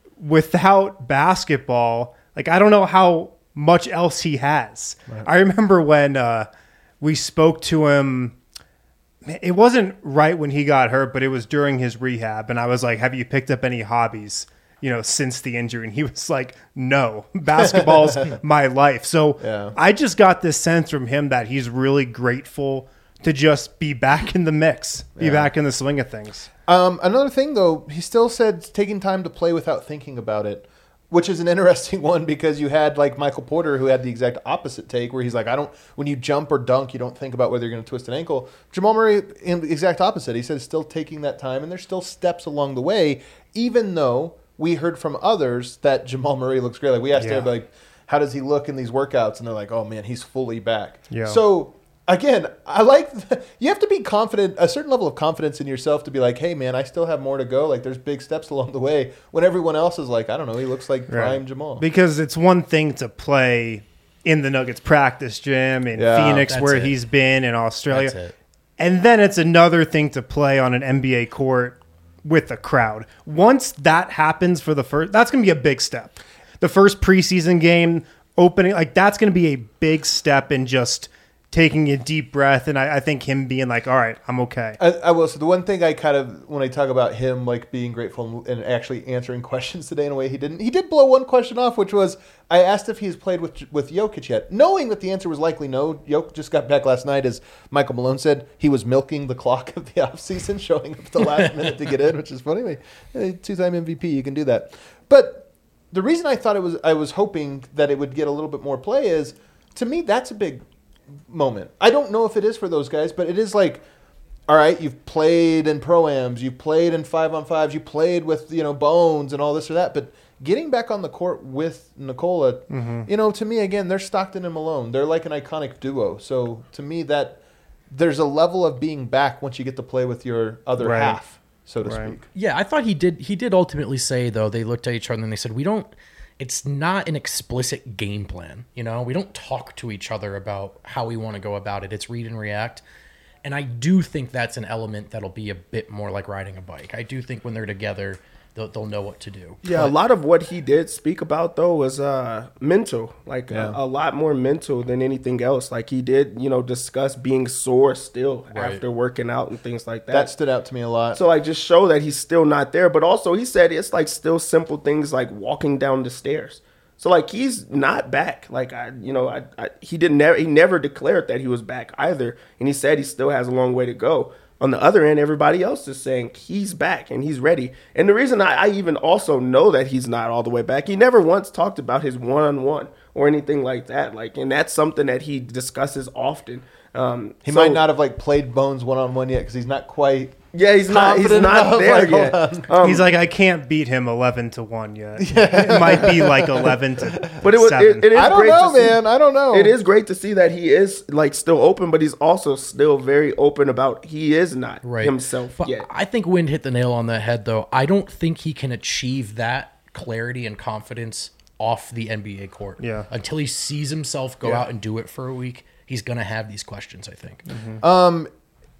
without basketball, like I don't know how much else he has. I remember when uh, we spoke to him. It wasn't right when he got hurt, but it was during his rehab. And I was like, have you picked up any hobbies, you know, since the injury? And he was like, no, basketball's my life. So Yeah. I just got this sense from him that he's really grateful to just be back in the mix, be Yeah. back in the swing of things. Um, another thing, though, he still said taking time to play without thinking about it, which is an interesting one because you had like Michael Porter who had the exact opposite take where he's like, I don't, when you jump or dunk, you don't think about whether you're going to twist an ankle. Jamal Murray, in the exact opposite. He said still taking that time and there's still steps along the way, even though we heard from others that Jamal Murray looks great. Like we asked Yeah. everybody, like, how does he look in these workouts? And they're like, oh man, he's fully back. Yeah. So again, I like the, you have to be confident, a certain level of confidence in yourself to be like, hey man, I still have more to go. Like there's big steps along the way. When everyone else is like, I don't know, he looks like prime Right. Jamal. Because it's one thing to play in the Nuggets practice gym in Yeah. Phoenix, That's where it. he's been in Australia. That's it. And then it's another thing to play on an N B A court with a crowd. Once that happens for the first, that's going to be a big step. The first preseason game opening, like that's going to be a big step in just taking a deep breath. And I, I think him being like, all right, I'm okay. I, I will. So the one thing I kind of, when I talk about him like being grateful and, and actually answering questions today in a way he didn't, he did blow one question off, which was I asked if he's played with with Jokic yet, knowing that the answer was likely no. Jokic just got back last night, as Michael Malone said. He was milking the clock of the offseason, showing up at the last minute to get in, which is funny. Like, hey, two-time M V P, you can do that. But the reason I thought it was, I was hoping that it would get a little bit more play is, to me, that's a big moment. I don't know if it is for those guys, but it is like, all right, you've played in pro-ams, you've played in five-on-fives, you played with, you know, Bones and all this or that, but getting back on the court with Nikola, Mm-hmm. you know, to me, again, they're Stockton and Malone. They're like an iconic duo. So to me, that there's a level of being back once you get to play with your other Right. half, so to Right. speak. Yeah, I thought he did. He did ultimately say though. They looked at each other and they said, "We don't. It's not an explicit game plan. You know, we don't talk to each other about how we want to go about it. It's read and react." And I do think that's an element that'll be a bit more like riding a bike. I do think when they're together, they'll, they'll know what to do. Yeah, a lot of what he did speak about though was uh, mental, like Yeah. a, a lot more mental than anything else. Like he did, you know, discuss being sore still Right. after working out and things like that. That stood out to me a lot. So like just show that he's still not there, but also he said it's like still simple things like walking down the stairs. So like he's not back. Like I, you know, I, I he didn't never he never declared that he was back either, and he said he still has a long way to go. On the other end, everybody else is saying he's back and he's ready. And the reason I, I even also know that he's not all the way back, he never once talked about his one-on-one or anything like that. Like, and that's something that he discusses often. Um, he so- might not have like played Bones one-on-one yet because he's not quite Yeah, he's not. He's confident not enough, there like, yet. hold Um, He's like, I can't beat him eleven to one yet. It might be like eleven to But it was. seven. It, it is I don't great know, to see- man. I don't know. It is great to see that he is like still open, but he's also still very open about he is not Right. himself But yet. I think Wind hit the nail on the head, though. I don't think he can achieve that clarity and confidence off the N B A court. Yeah. Until he sees himself go Yeah. out and do it for a week, he's going to have these questions, I think.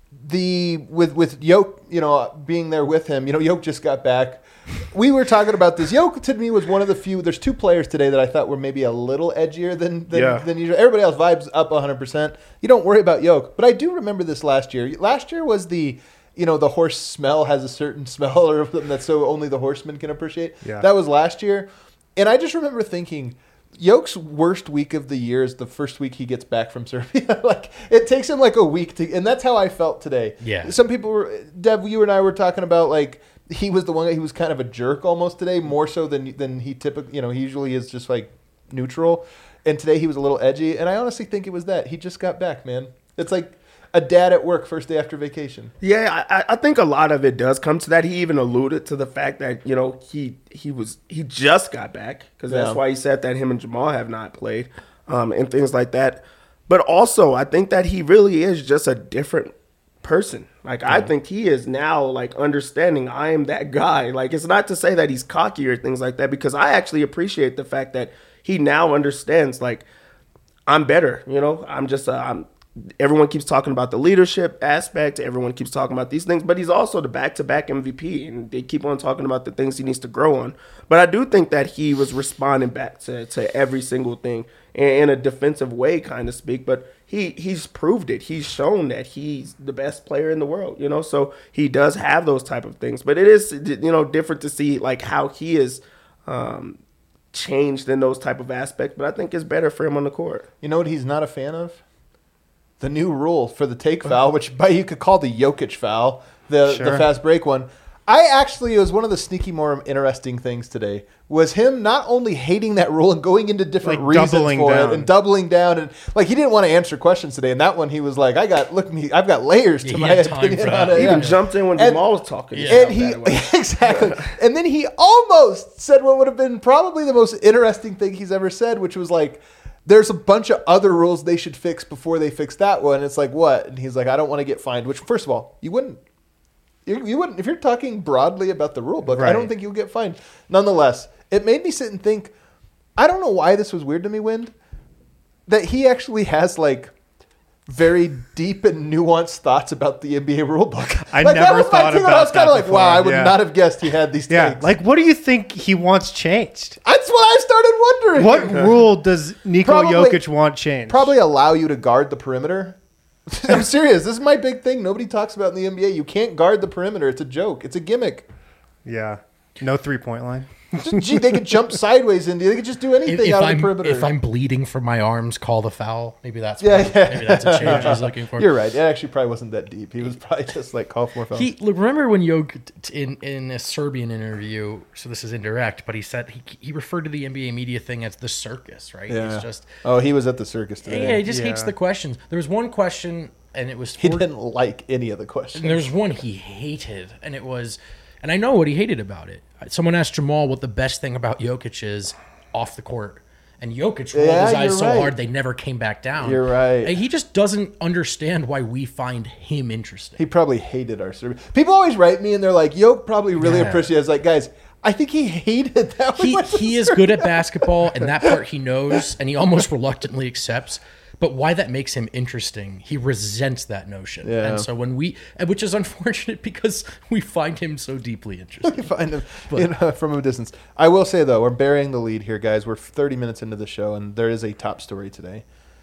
the with with Yoke, you know, being there with him, you know, Yoke just got back. We were talking about this. Yoke to me was one of the few. There's two players today that I thought were maybe a little edgier than than, Yeah. than usual. Everybody else vibes up one hundred percent. You don't worry about Yoke, but I do remember this last year. Last year was the, you know, the horse smell has a certain smell or something that so only the horseman can appreciate. Yeah. That was last year, and I just remember thinking, Yoke's worst week of the year is the first week he gets back from Serbia. Like it takes him like a week to, and that's how I felt today. Yeah. Some people were, Dev, you and I were talking about like he was the one. He was kind of a jerk almost today, more so than than he typically, you know, he usually is just like neutral. And today he was a little edgy, and I honestly think it was that he just got back, man. It's like a dad at work first day after vacation. Yeah, I, I think a lot of it does come to that. He even alluded to the fact that, you know, he he was he just got back because that's Yeah. why he said that him and Jamal have not played um, and things like that. But also, I think that he really is just a different person. Like, I think he is now, like, understanding I am that guy. Like, it's not to say that he's cocky or things like that, because I actually appreciate the fact that he now understands, like, I'm better, you know? I'm just, uh, I'm, everyone keeps talking about the leadership aspect. Everyone keeps talking about these things, but he's also the back-to-back M V P, and they keep on talking about the things he needs to grow on. But I do think that he was responding back to, to every single thing in, in a defensive way, kind of speak. But he he's proved it. He's shown that he's the best player in the world, you know. So he does have those type of things. But it is, you know, different to see like how he is um, changed in those type of aspects. But I think it's better for him on the court. You know what he's not a fan of? The new rule for the take foul, which by you could call the Jokic foul, the Sure. the fast break one. I actually, it was one of the sneaky, more interesting things today, was him not only hating that rule and going into different Like reasons doubling for down. it and doubling down. And like, he didn't want to answer questions today. And that one, he was like, I got, look, me, I've got layers to Yeah, he my had time opinion for on that. it. He Yeah. even jumped in when And- Jamal was talking. Yeah. And he, exactly. And then he almost said what would have been probably the most interesting thing he's ever said, which was like, there's a bunch of other rules they should fix before they fix that one. It's like, what? And he's like, I don't want to get fined, which, first of all, you wouldn't. You, you wouldn't. If you're talking broadly about the rule book, I Right. don't think you'll get fined. Nonetheless, it made me sit and think, I don't know why this was weird to me, Wind, that he actually has, like, very deep and nuanced thoughts about the N B A rule book. I Like, that never was my thought thing, and I about was kind that of like, before, wow, I would yeah. not have guessed he had these Yeah, takes. like what do you think he wants changed? That's what I started wondering. What rule does Nikola Probably- Jokic want changed? Probably allow you to guard the perimeter. I'm serious. This is my big thing. Nobody talks about in the N B A. You can't guard the perimeter. It's a joke. It's a gimmick. Yeah. No three point line. Just, gee, they could jump sideways into. They could just do If, anything if out of I'm the perimeter. if I'm bleeding from my arms, call the foul. Maybe that's Yeah, what- yeah. maybe that's a change he's looking for. You're right. It actually probably wasn't that deep. He was probably just like call for more fouls. He look, remember when Jokic t- in in a Serbian interview. So this is indirect, but he said he he referred to the N B A media thing as the circus, right? yeah. He's just Oh, he was at the circus today. yeah, he just hates Yeah. the questions. There was one question, and it was He for- didn't like any of the questions. And there's one he hated, and it was, and I know what he hated about it. Someone asked Jamal what the best thing about Jokic is off the court, and Jokic rolled Yeah, his eyes you're so right. hard they never came back down. You're right. And he just doesn't understand why we find him interesting. He probably hated our Serbian. People always write me and they're like, Yoke probably really Yeah. appreciates. Like, guys, I think he hated that. He, We went to he is good at basketball, and that part he knows, and he almost reluctantly accepts. But why that makes him interesting, he resents that notion. Yeah. And so when we, and which is unfortunate because we find him so deeply interesting. find him you know, from a distance. I will say though, we're burying the lead here, guys. We're thirty minutes into the show, and there is a top story today.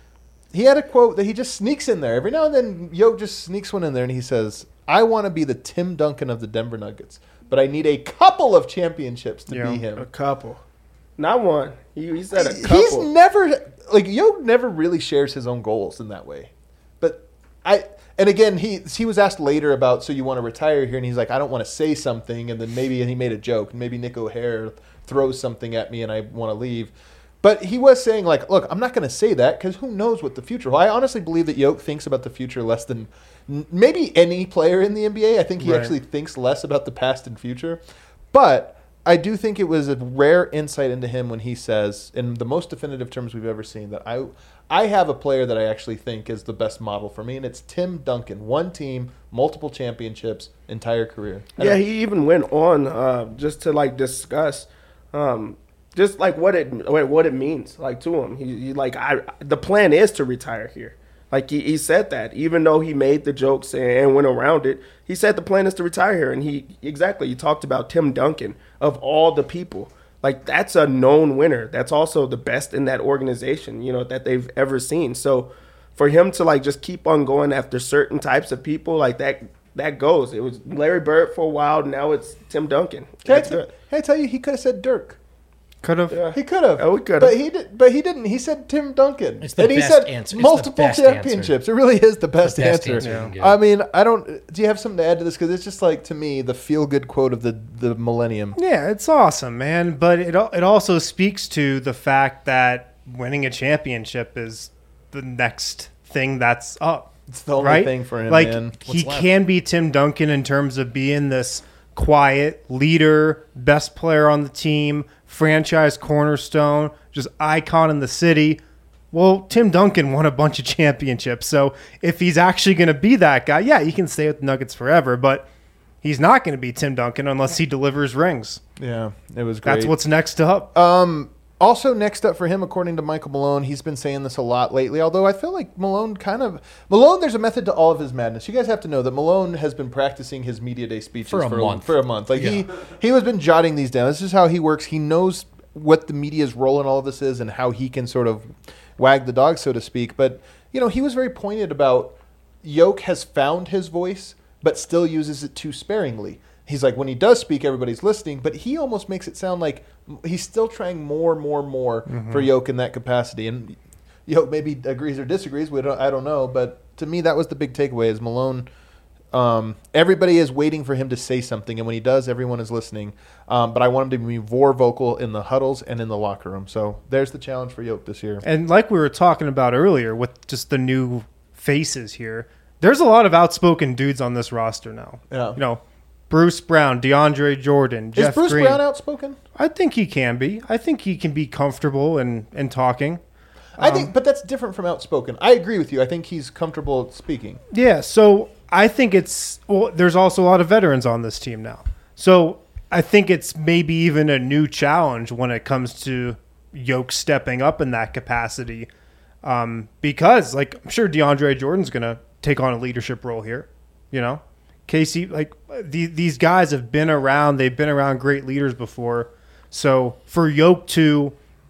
He had a quote that he just sneaks in there every now and then. Yoke just sneaks one in there, and he says, "I want to be the Tim Duncan of the Denver Nuggets, but I need a couple of championships to Yeah. be A him." couple, not one. He, he said a couple. He's never like Yoke never really shares his own goals in that way. But I and again he he was asked later about so you want to retire here, and he's like, I don't want to say something, and then maybe and he made a joke, and maybe Nick O'Hare throws something at me and I want to leave. But he was saying like, look, I'm not going to say that because who knows what the future. Well, I honestly believe that Yoke thinks about the future less than n- maybe any player in the N B A. I think he Right. actually thinks less about the past and future. But I do think it was a rare insight into him when he says, in the most definitive terms we've ever seen, that I I have a player that I actually think is the best model for me, and it's Tim Duncan. One team, multiple championships, entire career. I Yeah, don't- he even went on uh, just to like discuss, um, just like what it what what it means like to him. He, he like I the plan is to retire here. Like he, he said that, even though he made the jokes and, and went around it, he said the plan is to retire here. And he exactly, he talked about Tim Duncan of all the people. Like that's a known winner. That's also the best in that organization, you know, that they've ever seen. So for him to like just keep on going after certain types of people, like that, that goes. It was Larry Bird for a while. Now it's Tim Duncan. Can I, That's t- good. can I tell you, he could have said Dirk. Could have. Yeah. He could have. Oh, we could have. But he did. But he didn't. He said Tim Duncan. It's the and he best said answer. It's the multiple best championships. It really is the best, the best answer. answer you can give. I mean, I don't. Do you have something to add to this? Because it's just like to me the feel good quote of the the millennium. Yeah, it's awesome, man. But it al- it also speaks to the fact that winning a championship is the next thing that's up. It's the only right? thing for him, like, man. he What's left? can be Tim Duncan in terms of being this quiet leader, best player on the team, franchise cornerstone, just icon in the city. Well, Tim Duncan won a bunch of championships. So if he's actually going to be that guy, yeah, he can stay with the Nuggets forever. But he's not going to be Tim Duncan unless he delivers rings. Yeah, it was great. That's what's next up. Um, also, next up for him, according to Michael Malone, he's been saying this a lot lately, although I feel like Malone kind of... Malone, there's a method to all of his madness. You guys have to know that Malone has been practicing his media day speeches For a for, month. for a month. Like Yeah. he, he has been jotting these down. This is how he works. He knows what the media's role in all of this is and how he can sort of wag the dog, so to speak. But, you know, he was very pointed about Yoke has found his voice, but still uses it too sparingly. He's like, when he does speak, everybody's listening, but he almost makes it sound like he's still trying more, more, more Mm-hmm. for Yoke in that capacity. And Yoke maybe agrees or disagrees. We don't, I don't know. But to me, that was the big takeaway is Malone. Um, everybody is waiting for him to say something. And when he does, everyone is listening. Um, but I want him to be more vocal in the huddles and in the locker room. So there's the challenge for Yoke this year. And like we were talking about earlier with just the new faces here, there's a lot of outspoken dudes on this roster now. Yeah. You know, Bruce Brown, DeAndre Jordan, Is Jeff Bruce Green. Brown outspoken? I think he can be. I think he can be comfortable in, in talking. I Um, think, but that's different from outspoken. I agree with you. I think he's comfortable speaking. Yeah, so I think it's well, there's also a lot of veterans on this team now. So I think it's maybe even a new challenge when it comes to Yoke stepping up in that capacity. Um, because like I'm sure DeAndre Jordan's gonna take on a leadership role here, you know? Casey, like the, these guys have been around, they've been around great leaders before. So for Yoke to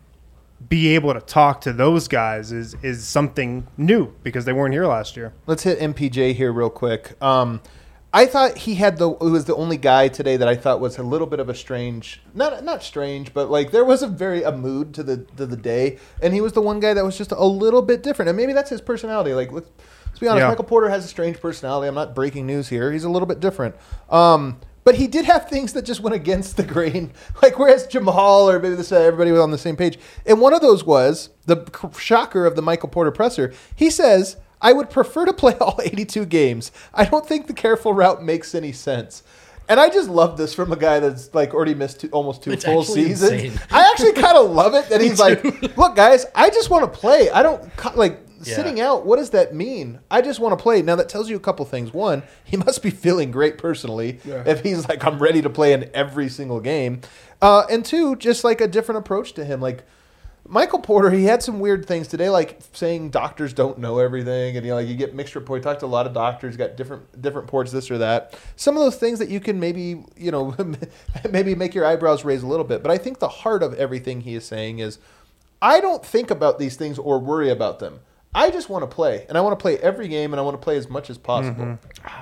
be able to talk to those guys is is something new because they weren't here last year. Let's hit M P J here real quick. Um, I thought he had the it was the only guy today that I thought was a little bit of a strange, not not strange, but like there was a very a mood to the to the day, and he was the one guy that was just a little bit different, and maybe that's his personality. Like let's, let's be honest, Yeah. Michael Porter has a strange personality. I'm not breaking news here. He's a little bit different. Um, But he did have things that just went against the grain. Like whereas Jamal or maybe this uh, everybody was on the same page. And one of those was the shocker of the Michael Porter presser. He says, I would prefer to play all eighty-two games. I don't think the careful route makes any sense. And I just love this from a guy that's like already missed two, almost two It's full actually seasons. insane. I actually kind of love it that he's like, look, guys, I just want to play. I don't co- like Yeah. sitting out. What does that mean? I just want to play. Now that tells you a couple things. One, he must be feeling great personally if he's like, I'm ready to play in every single game. Uh, and two, just like a different approach to him. Like Michael Porter, he had some weird things today, like saying doctors don't know everything, and you know, like you get mixed report. He talked to a lot of doctors, got different different reports, this or that. Some of those things that you can maybe, you know, maybe make your eyebrows raise a little bit. But I think the heart of everything he is saying is, I don't think about these things or worry about them. I just want to play, and I want to play every game, and I want to play as much as possible.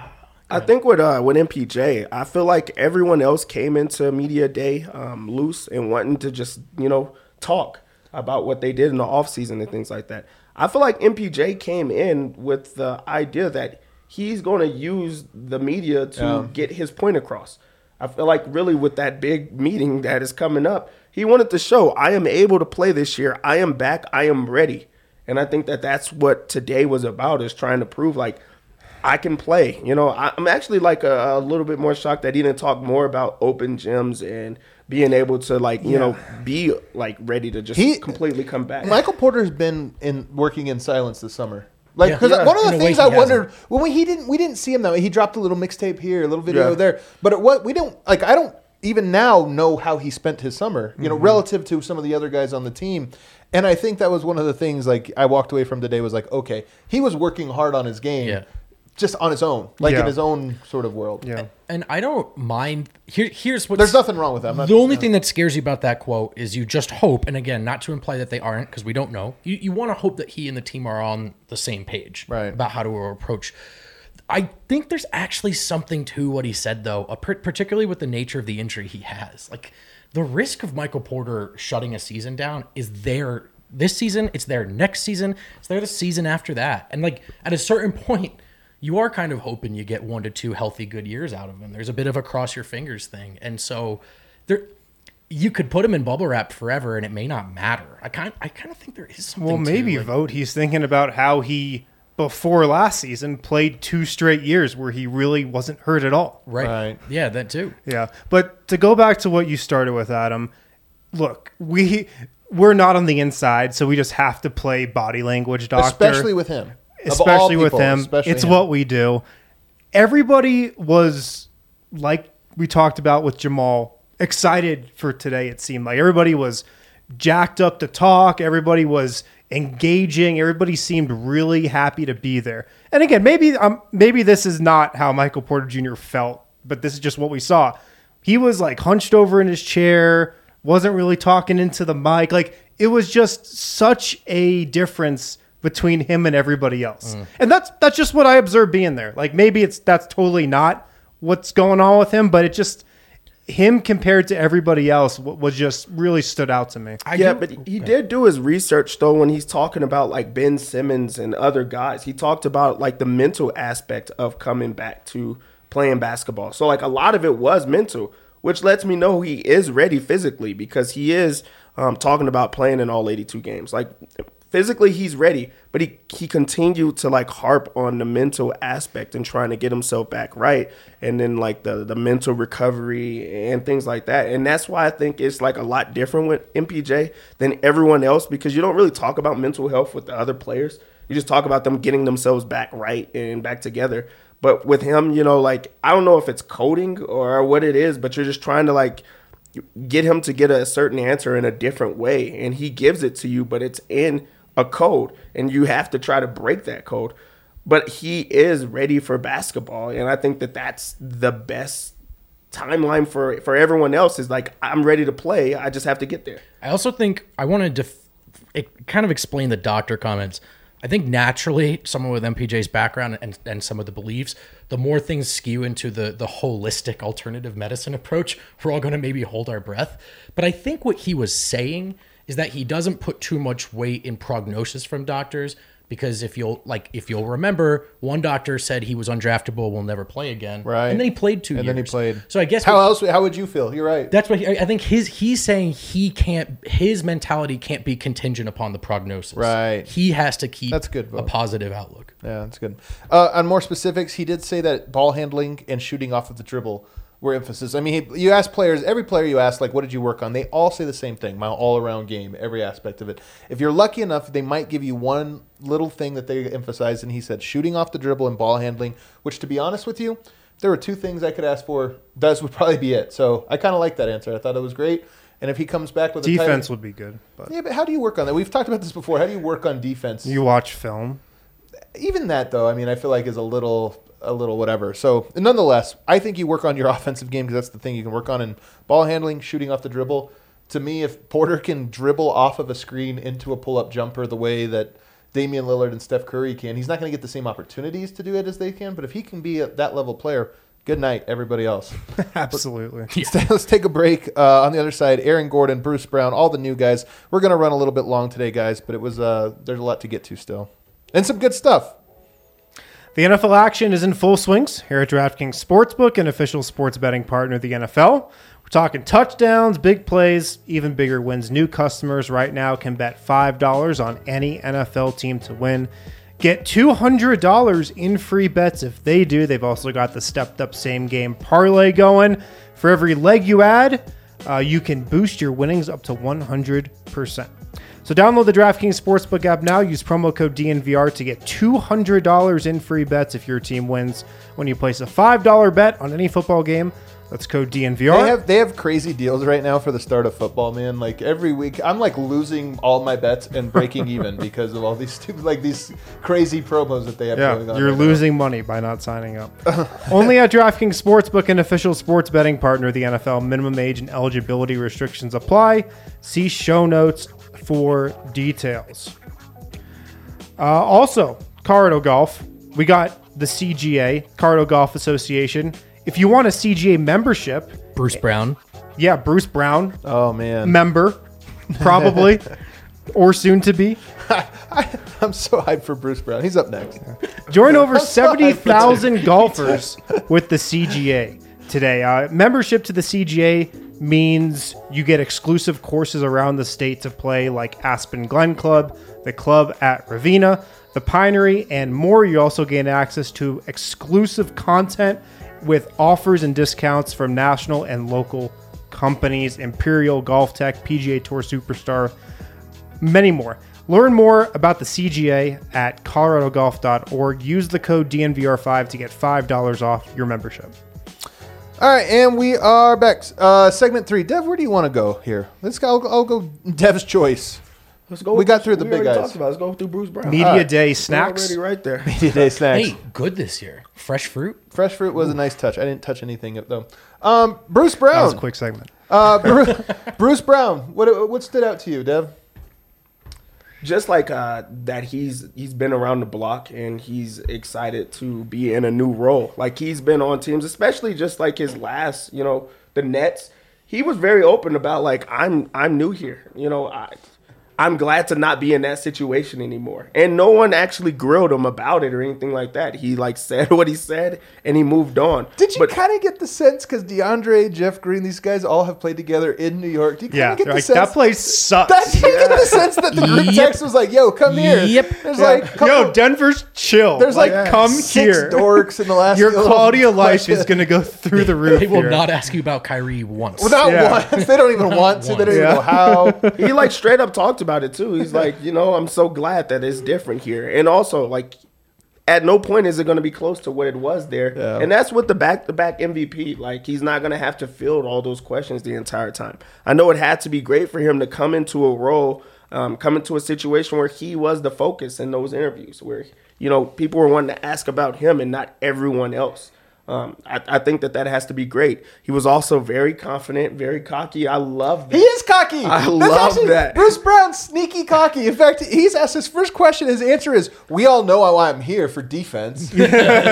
I think with uh, with M P J, I feel like everyone else came into media day um, loose and wanting to just you know talk about what they did in the offseason and things like that. I feel like M P J came in with the idea that he's going to use the media to Yeah. get his point across. I feel like really with that big meeting that is coming up, he wanted to show I am able to play this year. I am back. I am ready. And I think that that's what today was about, is trying to prove like I can play. You know, I, I'm actually like a, a little bit more shocked that he didn't talk more about open gyms and being able to like, you know, be like ready to just He- completely come back. Michael Porter's been in working in silence this summer. Like, Yeah. because Yeah. one of the In a way, things he I hasn't. wondered when we he didn't we didn't see him that way. He dropped a little mixtape here, a little video Yeah. there, but it, what we don't like. I don't. even now know how he spent his summer, you know, Mm-hmm. relative to some of the other guys on the team. And I think that was one of the things like I walked away from today was like, okay, he was working hard on his game Yeah. just on his own, like Yeah. in his own sort of world. Yeah. And I don't mind. Here, here's what. There's nothing wrong with that. I'm not- The only thing that scares you about that quote is you just hope, and again, not to imply that they aren't, because we don't know. You you want to hope that he and the team are on the same page Right. about how to approach. I think there's actually something to what he said, though, uh, par- particularly with the nature of the injury he has. Like the risk of Michael Porter shutting a season down is there this season. It's there next season. It's there the season after that. And like at a certain point, you are kind of hoping you get one to two healthy good years out of him. There's a bit of a cross your fingers thing. And so there you could put him in bubble wrap forever and it may not matter. I kind I kind of think there is something Well, maybe to, like, vote. He's thinking about how he, before last season, played two straight years where he really wasn't hurt at all. right. Right. Yeah, that too. Yeah. But to go back to what you started with, Adam, look, we we're not on the inside, so we just have to play body language doctor. especially with him. Of all especially with people, him. especially It's him. what we do. Everybody was, like we talked about with Jamal, excited for today, it seemed like. Everybody was jacked up to talk. Everybody was engaging. Everybody seemed really happy to be there. And again, maybe um, maybe this is not how Michael Porter Junior felt, but this is just what we saw. He was like hunched over in his chair, wasn't really talking into the mic. Like it was just such a difference between him and everybody else. And that's that's just what I observed being there. Like maybe it's that's totally not what's going on with him, but it just him compared to everybody else w- was just really stood out to me. I yeah, do- but he did do his research though when he's talking about like Ben Simmons and other guys. He talked about like the mental aspect of coming back to playing basketball. So like a lot of it was mental, which lets me know he is ready physically because he is um, talking about playing in all eighty-two games. Like physically he's ready, but he he continued to like harp on the mental aspect and trying to get himself back right, and then like the the mental recovery and things like that. And that's why I think it's like a lot different with M P J than everyone else, because you don't really talk about mental health with the other players. You just talk about them getting themselves back right and back together. But with him, you know, like I don't know if it's coding or what it is, but you're just trying to like get him to get a certain answer in a different way, and he gives it to you, but it's in a code, and you have to try to break that code. But he is ready for basketball, and I think that that's the best timeline for for everyone else. Is like, I'm ready to play, I just have to get there. I also think I want to def- it kind of explain the doctor comments. I think naturally, someone with M P J's background and, and some of the beliefs, the more things skew into the the holistic alternative medicine approach, we're all going to maybe hold our breath. But I think what he was saying is that he doesn't put too much weight in prognosis from doctors, because if you'll like if you'll remember, one doctor said he was undraftable, will never play again, Right. and then he played two And years. then he played. So I guess how what- else? How would you feel? You're right. that's what he, I think his he's saying he can't his mentality can't be contingent upon the prognosis. Right. He has to keep That's good, a Bo. positive outlook. Yeah, that's good. Uh, on more specifics, he did say that ball handling and shooting off of the dribble were emphasis. I mean, he, you ask players, every player you ask, like, what did you work on? They all say the same thing, my all-around game, every aspect of it. If you're lucky enough, they might give you one little thing that they emphasize, and he said shooting off the dribble and ball handling, which, to be honest with you, if there were two things I could ask for, those would probably be it. So I kind of like that answer. I thought it was great. And if he comes back with a Defense tight, would be good, but yeah, but how do you work on that? We've talked about this before. How do you work on defense? you watch film. Even that, though, I mean, I feel like is a little, a little whatever. So, nonetheless, I think you work on your offensive game because that's the thing you can work on in ball handling, shooting off the dribble. To me, if Porter can dribble off of a screen into a pull-up jumper the way that Damian Lillard and Steph Curry can, he's not going to get the same opportunities to do it as they can. But if he can be a, that level player, good night, everybody else. Absolutely. Let's, let's take a break. Uh, on the other side, Aaron Gordon, Bruce Brown, all the new guys. We're going to run a little bit long today, guys, but it was uh, there's a lot to get to still. And some good stuff. The N F L action is in full swings here at DraftKings Sportsbook, an official sports betting partner of the N F L. We're talking touchdowns, big plays, even bigger wins. New customers right now can bet five dollars on any N F L team to win. Get two hundred dollars in free bets if they do. They've also got the stepped-up same-game parlay going. For every leg you add, uh, you can boost your winnings up to one hundred percent. So download the DraftKings Sportsbook app now. Use promo code D N V R to get two hundred dollars in free bets if your team wins when you place a five dollars bet on any football game. That's code D N V R. They have they have crazy deals right now for the start of football, man. Like every week, I'm like losing all my bets and breaking even because of all these stupid, like these crazy promos that they have Yeah, going on. you're right losing money by not signing up. Only at DraftKings Sportsbook, an official sports betting partner of the N F L. Minimum age and eligibility restrictions apply. See show notes for details. Uh, also, Colorado Golf. We got the C G A, Colorado Golf Association. If you want a C G A membership, Bruce Brown. yeah, Bruce Brown, now. Oh man, member, probably, or soon to be. I, I'm so hyped for Bruce Brown. He's up next. Join over I'm so seventy thousand hyped for golfers with the C G A today. Uh, membership to the C G A means you get exclusive courses around the state to play, like Aspen Glen Club, the club at Ravenna, the Pinery, and more. You also gain access to exclusive content with offers and discounts from national and local companies, Imperial, Golf Tech, P G A Tour Superstar, many more. Learn more about the C G A at colorado golf dot org. Use the code D N V R five to get five dollars off your membership. All right, and we are back. Uh, segment three. Dev, where do you want to go here? Let's go. I'll, I'll go Dev's choice. Let's go. We got through the we big already guys. talked about it. Let's go through Bruce Brown. Media right. Day We're snacks. already right there. Today snacks. Hey, good this year. Fresh fruit. Fresh fruit was a nice touch. I didn't touch anything though. Um, Bruce That was a Brown. quick segment. Uh, Bruce, Bruce Brown. What what stood out to you, Dev? Just like uh, that, he's he's been around the block and he's excited to be in a new role. Like he's been on teams, especially just like his last, you know, the Nets. He was very open about like I'm I'm new here. You know, I I'm glad to not be in that situation anymore. And no one actually grilled him about it or anything like that. He like said what he said and he moved on. Did you But kind of get the sense because DeAndre, Jeff Green, these guys all have played together in New York? Do you kind Yeah, of get they're the like, sense that place sucks. That, you get the sense that the group Yep. text was like, "Yo, come here." Yep. There's Yeah. like, couple, Yo, Denver's chill. there's like come six here. dorks in the last. Your little- quality of life is going to go through the roof. They will here. not ask you about Kyrie once. Well, not Yeah. once. They don't even want to. They don't even Yeah. know how. he like straight up talked about it too. He's like, you know, I'm so glad that it's different here. And also like at no point is it going to be close to what it was there. Yeah. And that's with the back to back M V P. Like he's not going to have to field all those questions the entire time. I know it had to be great for him to come into a role, um, come into a situation where he was the focus in those interviews, where, you know, people were wanting to ask about him and not everyone else. Um, I, I think that that has to be great. He was also very confident, very cocky. I love that. He is cocky. I That's love actually- that. Bruce Brown's sneaky cocky. In fact, he's asked his first question. His answer is, "We all know why I'm here for defense. We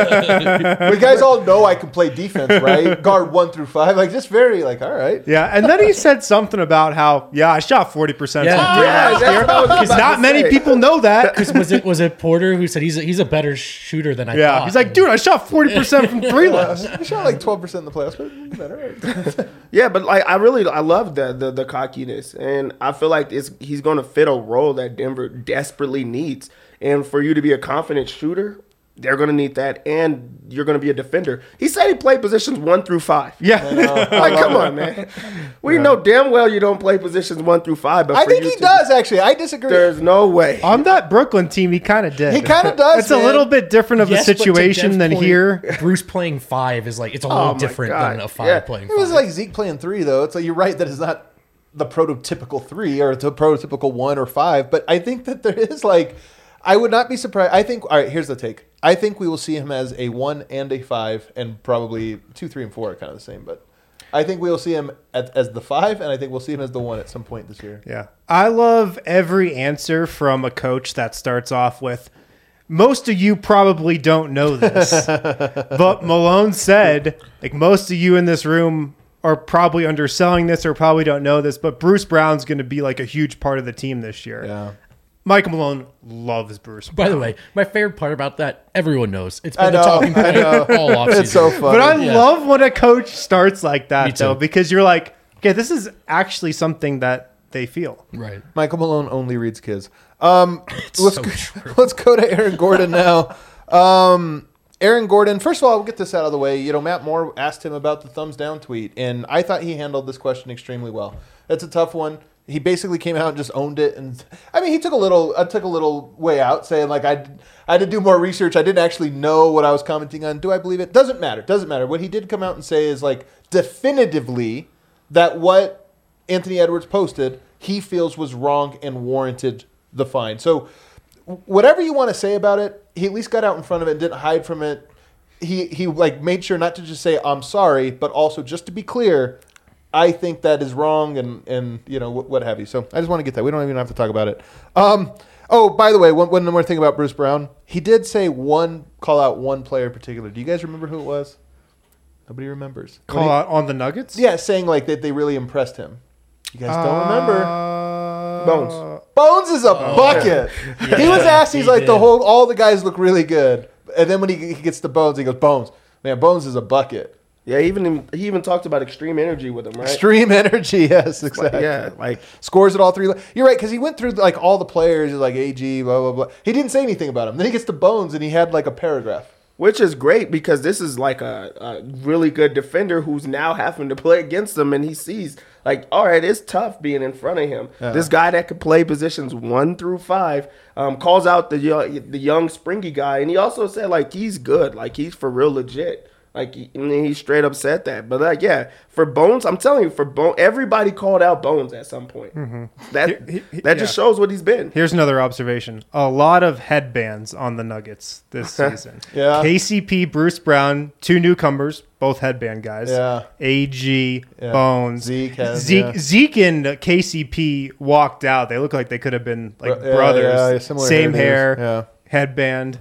guys all know I can play defense, right? Guard one through five. Like just very like, all right. Yeah, and then he said something about how, yeah, I shot forty percent Yeah. from three Yeah, last that's year. what I was Because about not to many say. people know that. Because was it was it Porter who said he's a, he's a better shooter than I Yeah, thought? he's like, dude, I shot forty percent from three last. He shot like twelve percent in the playoffs, but better. Right? Yeah, but like I really I love the the, the cockiness, and I feel like it's he's going to fit a role that Denver desperately needs. And for you to be a confident shooter, they're going to need that, and you're going to be a defender. He said he played positions one through five. Yeah. Like, come on, man. We know damn well you don't play positions one through five. But I for think you he to- does actually. I disagree. There's no way. On that Brooklyn team, he kind of did. He kinda does, It's a man. little bit different of Yes, a but to situation Dev's than point, here. Bruce playing five is like it's a Oh little my different God. than a five Yeah. playing It five. was like Zeke playing three, though. It's like you're right that it's not the prototypical three or the prototypical one or five, but I think that there is like, I would not be surprised. I think, all right, here's the take. I think we will see him as a one and a five, and probably two, three, and four are kind of the same, but I think we will see him at, as the five, and I think we'll see him as the one at some point this year. Yeah. I love every answer from a coach that starts off with, most of you probably don't know this, but Malone said, like, most of you in this room are probably underselling this or probably don't know this, but Bruce Brown's going to be like a huge part of the team this year. Yeah. Michael Malone loves Bruce Brown. By the way, my favorite part about that, everyone knows. It's I been the know, talking I point know. all offseason. It's so funny. But I Yeah. love when a coach starts like Me that, too. though, because you're like, okay, this is actually something that they feel. Right. Michael Malone only reads kids. Um, let's so go, true. let's go to Aaron Gordon now. Um, Aaron Gordon. First of all, we'll get this out of the way. You know, Matt Moore asked him about the thumbs down tweet, and I thought he handled this question extremely well. It's a tough one. He basically came out and just owned it, and I mean, he took a little, I took a little way out, saying like I, I had to do more research. I didn't actually know what I was commenting on. Do I believe it? Doesn't matter. Doesn't matter. What he did come out and say is like definitively that what Anthony Edwards posted, he feels was wrong and warranted the fine. So whatever you want to say about it, he at least got out in front of it and didn't hide from it. He he like made sure not to just say I'm sorry, but also just to be clear, I think that is wrong, and, and you know, what, what have you. So I just want to get that. We don't even have to talk about it. Um, oh, by the way, one, one more thing about Bruce Brown. He did say one, call out one player in particular. Do you guys remember who it was? Nobody remembers. Call he, out on the Nuggets? Yeah, saying like that they really impressed him. You guys don't Uh, remember? Bones. Bones is a bucket. Yeah, he was asked, he's he like, the did. whole, all the guys look really good. And then when he, he gets to Bones, he goes, Bones. Man, Bones is a bucket. Yeah, even he even talked about extreme energy with him, right? Extreme energy, yes, Like, exactly. yeah, like Scores at all three. You're right, because he went through like all the players, like A G, blah, blah, blah. He didn't say anything about him. Then he gets to Bones, and he had like a paragraph. which is great because this is like a, a really good defender who's now having to play against him, and he sees like, all right, it's tough being in front of him. Yeah. This guy that could play positions one through five um, calls out the yo- the young springy guy, and he also said like he's good, like he's for real legit. Like, he, and he straight up said that. But, like, yeah, for Bones, I'm telling you, for Bones, everybody called out Bones at some point. Mm-hmm. That He- he- that just yeah. shows what he's been. Here's another observation. A lot of headbands on the Nuggets this season. Yeah. K C P, Bruce Brown, two newcomers, both headband guys. Yeah. A G, Yeah. Bones. Zeke has, Zeke, yeah. Zeke and K C P walked out. They look like they could have been like Bro- yeah, brothers. yeah, similar Same hairdos. hair, Yeah. headband.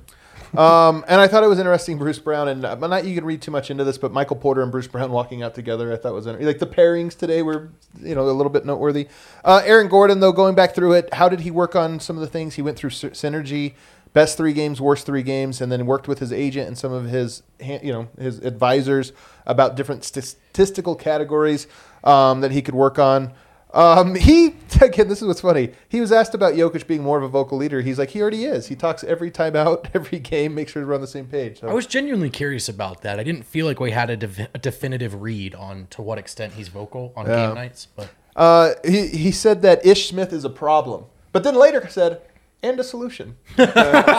Um, and I thought it was interesting, Bruce Brown, and uh, not you can read too much into this, but Michael Porter and Bruce Brown walking out together, I thought was inter- like the pairings today were, you know, a little bit noteworthy. Uh, Aaron Gordon, though, going back through it, how did he work on some of the things? He went through sy- synergy, best three games, worst three games, and then worked with his agent and some of his, ha- you know, his advisors about different statistical categories um, that he could work on. Um, he, again, this is what's funny. He was asked about Jokic being more of a vocal leader. He's like, he already is. He talks every time out, every game, make sure to run the same page. So. I was genuinely curious about that. I didn't feel like we had a, dev- a definitive read on to what extent he's vocal on Yeah. game nights, but Uh, he, he said that Ish Smith is a problem, but then later said, and a solution. there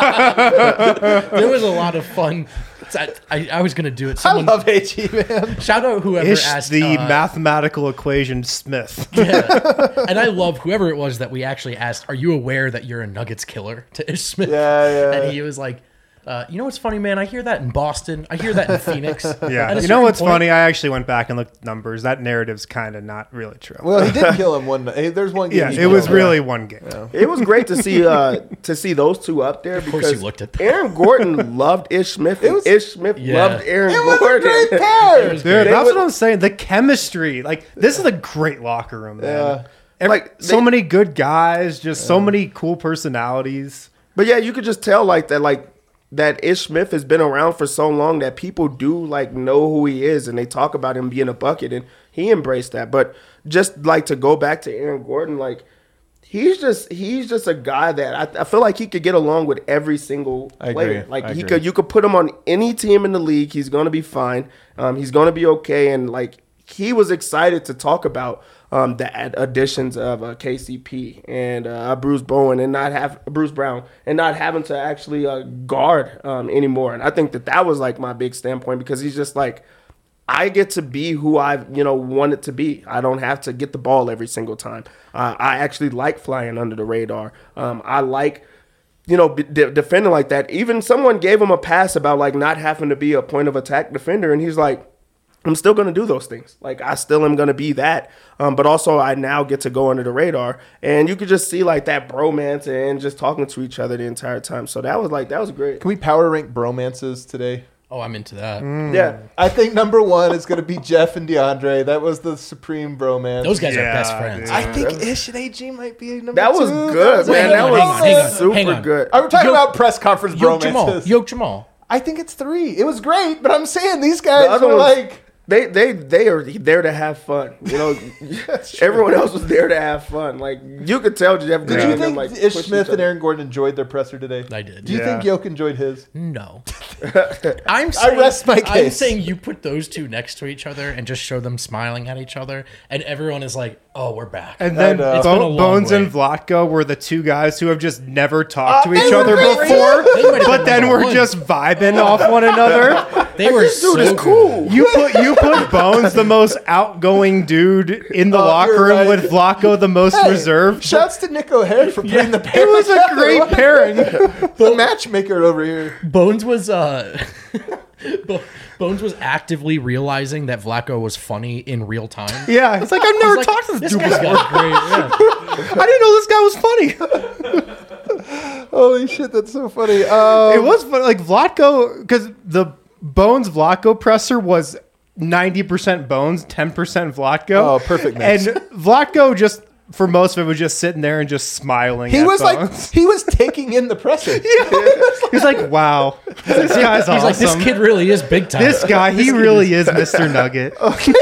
was a lot of fun. I, I, I was gonna do it. Someone, I love A G, man. shout out whoever Ish asked the uh, mathematical equation Smith. Yeah. And I love whoever it was that we actually asked, are you aware that you're a Nuggets killer to Ish Smith? Yeah, yeah. And he was like, uh, you know what's funny, man? I hear that in Boston. I hear that in Phoenix. At Yeah. a You know certain what's point- funny? I actually went back and looked at numbers. That narrative's kind of not really true. Well, he did kill him one night. There's one game. yeah, he it killed was him. really one game. It was great to see uh, to see those two up there course because you looked at that. Aaron Gordon loved Ish Smith. And was- Ish Smith Yeah. loved Aaron It was Gordon. a great pair. It was Dude, great. that's would- what I'm saying. The chemistry, like this is a great locker room, man. Yeah. Every- Like, so they- many good guys, just so many cool personalities. But yeah, you could just tell like that, like that Ish Smith has been around for so long that people do like know who he is, and they talk about him being a bucket, and he embraced that. But just like to go back to Aaron Gordon, like he's just he's just a guy that I, I feel like he could get along with every single I player. agree. Like I he agree. could, you could put him on any team in the league, he's gonna be fine. Um, he's gonna be okay, and like he was excited to talk about um, the ad- additions of uh, K C P and uh, Bruce Bowen and not have Bruce Brown and not having to actually uh, guard um, anymore. And I think that that was like my big standpoint because he's just like, I get to be who I you know wanted to be. I don't have to get the ball every single time. Uh, I actually like flying under the radar. Um, I like. You know, de- defending like that. Even someone gave him a pass about like not having to be a point of attack defender, and he's like, I'm still going to do those things. Like, I still am going to be that. Um, but also, I now get to go under the radar. And you could just see, like, that bromance and just talking to each other the entire time. So that was, like, that was great. Can we power rank bromances today? Oh, I'm into that. Yeah. I think number one is going to be Jeff and DeAndre. That was the supreme bromance. Those guys are Yeah, best friends. dude. I think Ish and A G might be number That was two. good, That man. hang That on, was hang on, hang on, super hang on. good. Are we talking Yo- about press conference Yoke Jamal. bromances? Yoke Jamal. I think it's three. It was great, but I'm saying these guys other were ones- like... They they they are there to have fun. You know, everyone else was there to have fun. Like, you could tell Jeff Did Green you and them, think like, Ish push Smith each and other. Aaron Gordon enjoyed their presser today? I did. Do you Yeah. think Yoke enjoyed his? No. I'm saying, rest my I'm case. saying you put those two next to each other and just show them smiling at each other, and everyone is like, Oh, we're back. And then And, uh, It's been a Bo- long Bones way. and Vlatko were the two guys who have just never talked Oh, to each they were other great. before, They might have but been then number we're one. just vibing off one another. They were so Dude, it's good. cool. You put you put Bones, the most outgoing dude in the Oh, locker you're room, right. with Vlatko, the most Hey, reserved. Shouts to Nick O'Hare for putting the It pair was a together. great pairing. The matchmaker over here. Bones was uh, Bo- Bones was actively realizing that Vlatko was funny in real time. Yeah, it's like I've never He's like, talked to this, this dude guy's before. got great. Yeah. I didn't know this guy was funny. Holy shit, that's so funny. Um, It was funny, like Vlatko, because the Bones Vlatko presser was ninety percent Bones, ten percent Vlatko. Oh, perfect mix. And Vlatko just, for most of it, was just sitting there and just smiling. he at was like, Bones. he was taking in the presser. He's like, wow, this guy's He's awesome. like, this kid really is big time. This guy, he really is Mister Nugget.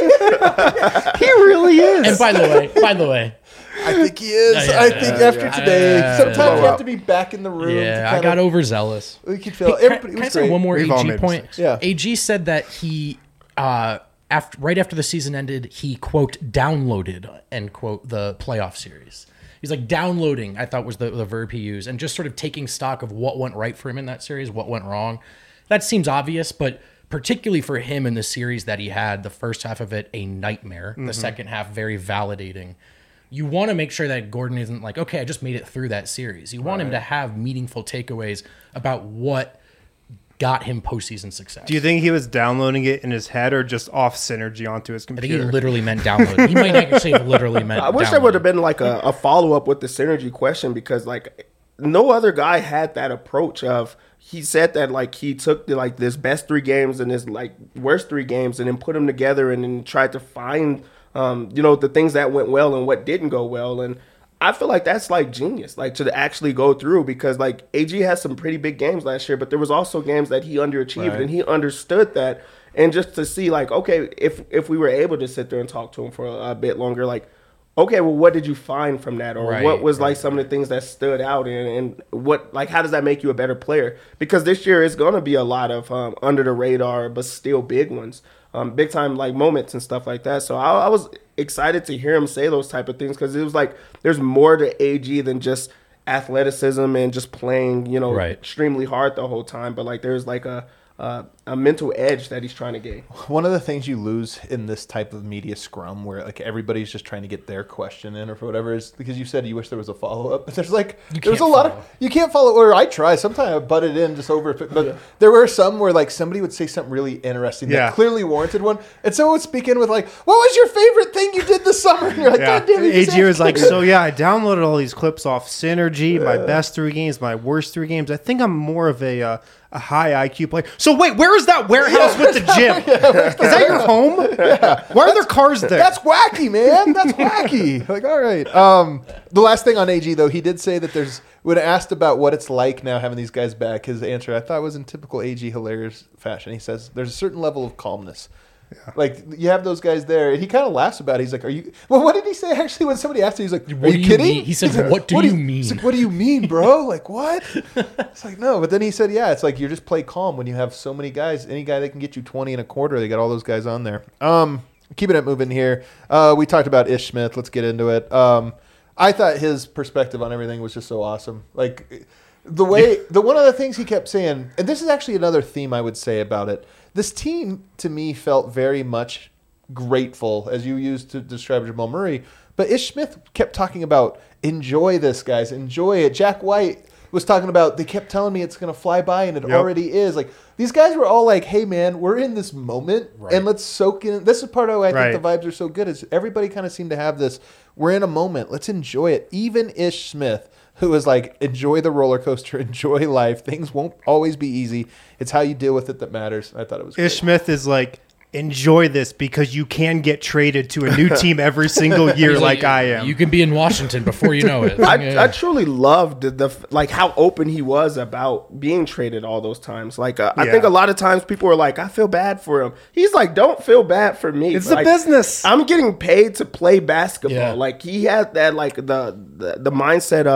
He really is. And by the way, by the way, I think he is. Yeah, yeah, I think yeah, after yeah. today, Yeah, sometimes yeah. you have to be back in the room. to yeah, I kind got of, overzealous. We could feel Hey, everybody. can, It can I was say great. one more We've all A G made point? mistakes. Yeah. A G said that he, uh, after right after the season ended, he quote downloaded end quote the playoff series. He's like downloading. I thought was the, the verb he used, and just sort of taking stock of what went right for him in that series, what went wrong. That seems obvious, but particularly for him in the series that he had, the first half of it a nightmare, the second half very validating. You want to make sure that Gordon isn't like, okay, I just made it through that series. You want him to have meaningful takeaways about what got him postseason success. Do you think he was downloading it in his head or just off synergy onto his I think computer? he literally meant download. He might actually have literally meant I wish download. there would have been like a, a follow up with the synergy question, because like no other guy had that approach of, he said that like he took the, like this best three games and his like worst three games and then put them together and then tried to find um, you know, the things that went well and what didn't go well. And I feel like that's like genius, like to actually go through, because like A G has some pretty big games last year, but there was also games that he underachieved Right. and he understood that. And just to see like, okay, if if we were able to sit there and talk to him for a, a bit longer, like, okay, well, what did you find from that? Or Right, what was right, like some of the things that stood out, and, and what, like, how does that make you a better player? Because this year is going to be a lot of um, under the radar, but still big ones, um, big time like moments and stuff like that. So I, I was excited to hear him say those type of things, because it was like there's more to A G than just athleticism and just playing, you know, Right. extremely hard the whole time. But like there's like a uh, a mental edge that he's trying to gain. One of the things you lose in this type of media scrum, where like everybody's just trying to get their question in or whatever, is because you said you wish there was a follow up. But there's like You there's a can't lot follow. of you can't follow. Or I try. Sometimes I butt it in just over. But there were some where like somebody would say something really interesting Yeah. that clearly warranted one, and someone would speak in with like, "What was your favorite thing you did this summer?" And you're like, Yeah. "God damn it!" you A G was like, asked me." so yeah, I downloaded all these clips off Synergy, my best three games, my worst three games. I think I'm more of a uh, a high I Q player. So wait, where is that warehouse with the gym? Is that your home? Why are there cars there? That's wacky, man. That's wacky. Like, all right. Um, the last thing on A G though, he did say that there's when asked about what it's like now having these guys back, his answer I thought was in typical A G hilarious fashion. He says there's a certain level of calmness. Like you have those guys there, and he kind of laughs about it. He's like, "Are you?" Well, what did he say actually when somebody asked him? He's like, "Are What you do you kidding?" mean? He said, He's like, "What do you mean?" He's like, "What do you mean, bro? Like what?" It's like no, but then he said, "Yeah, it's like you just play calm when you have so many guys. Any guy that can get you twenty and a quarter, they got all those guys on there." Um, keeping it moving here. Uh, we talked about Ish Smith. Let's get into it. Um, I thought his perspective on everything was just so awesome. Like the way the one of the things he kept saying, and this is actually another theme I would say about it. This team to me felt very much grateful, as you used to describe Jamal Murray. But Ish Smith kept talking about enjoy this, guys, enjoy it. Jack White was talking about they kept telling me it's going to fly by, and it Yep. already is. Like these guys were all like, "Hey, man, we're in this moment, Right. and let's soak in." This is part of why I Right. think the vibes are so good. Is everybody kind of seemed to have this? We're in a moment. Let's enjoy it. Even Ish Smith, who was like, enjoy the roller coaster, enjoy life. Things won't always be easy. It's how you deal with it that matters. I thought it was great. Ish Smith is like, enjoy this because you can get traded to a new team every single year He's like I am. You can be in Washington before you know it. I, Yeah. I truly loved the, the like how open he was about being traded all those times. Like uh, I Yeah. think a lot of times people are like, I feel bad for him. He's like, don't feel bad for me. It's the Like, business. I'm getting paid to play basketball. Yeah. Like he had that like the, the the mindset of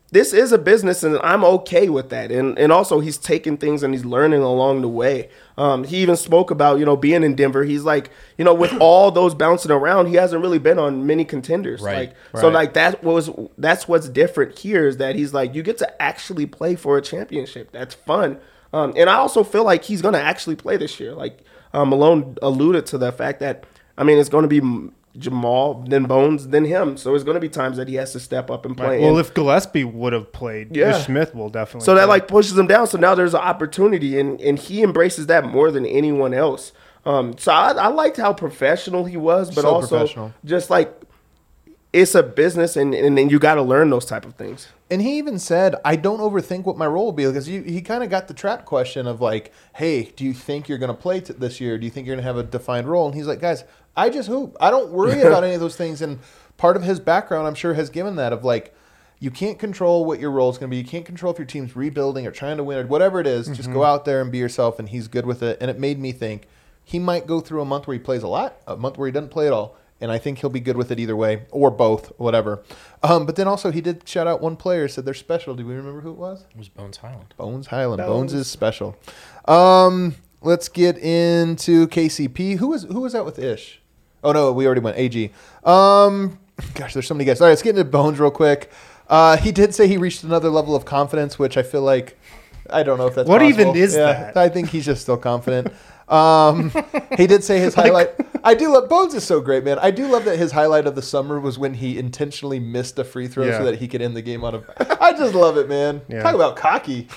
this is a business, and I'm okay with that. And and also he's taking things and he's learning along the way. Um, he even spoke about, you know, being in Denver. He's like, you know, with all those bouncing around, he hasn't really been on many contenders. Right. Like, Right. so like that was that's what's different here is that he's like, you get to actually play for a championship. That's fun. Um, and I also feel like he's going to actually play this year. Like um, Malone alluded to the fact that, I mean, it's going to be Jamal, then Bones, then him. So there's going to be times that he has to step up and play. Well, And if Gillespie would have played, Yeah. Ish Smith will definitely. so that play. like pushes him down. So now there's an opportunity, and, and he embraces that more than anyone else. Um, so I, I liked how professional he was, but So also professional. just like it's a business, and and then you got to learn those type of things. And he even said, I don't overthink what my role will be. Because he, he kind of got the trap question of like, hey, do you think you're going to play t- this year? Do you think you're going to have a defined role? And he's like, guys, I just hoop. I don't worry about any of those things. And part of his background, I'm sure, has given that of like, you can't control what your role is going to be. You can't control if your team's rebuilding or trying to win or whatever it is. Just go out there and be yourself, and he's good with it. And it made me think he might go through a month where he plays a lot, a month where he doesn't play at all. And I think he'll be good with it either way, or both, whatever. Um, but then also he did shout out one player, said they're special. Do we remember who it was? It was Bones Highland. Bones Highland. Bones, Bones. is special. Um, let's get into K C P. Who was who was out with Ish? Oh no, we already went A G. Um, gosh, there's so many guys. All right, let's get into Bones real quick. Uh, he did say he reached another level of confidence, which I feel like I don't know if that's What possible. even is Yeah, that? I think he's just still confident. Um, he did say his highlight. I do love Bones is so great, man. I do love that his highlight of the summer was when he intentionally missed a free throw Yeah. so that he could end the game on a. I just love it, man. Yeah. Talk about cocky.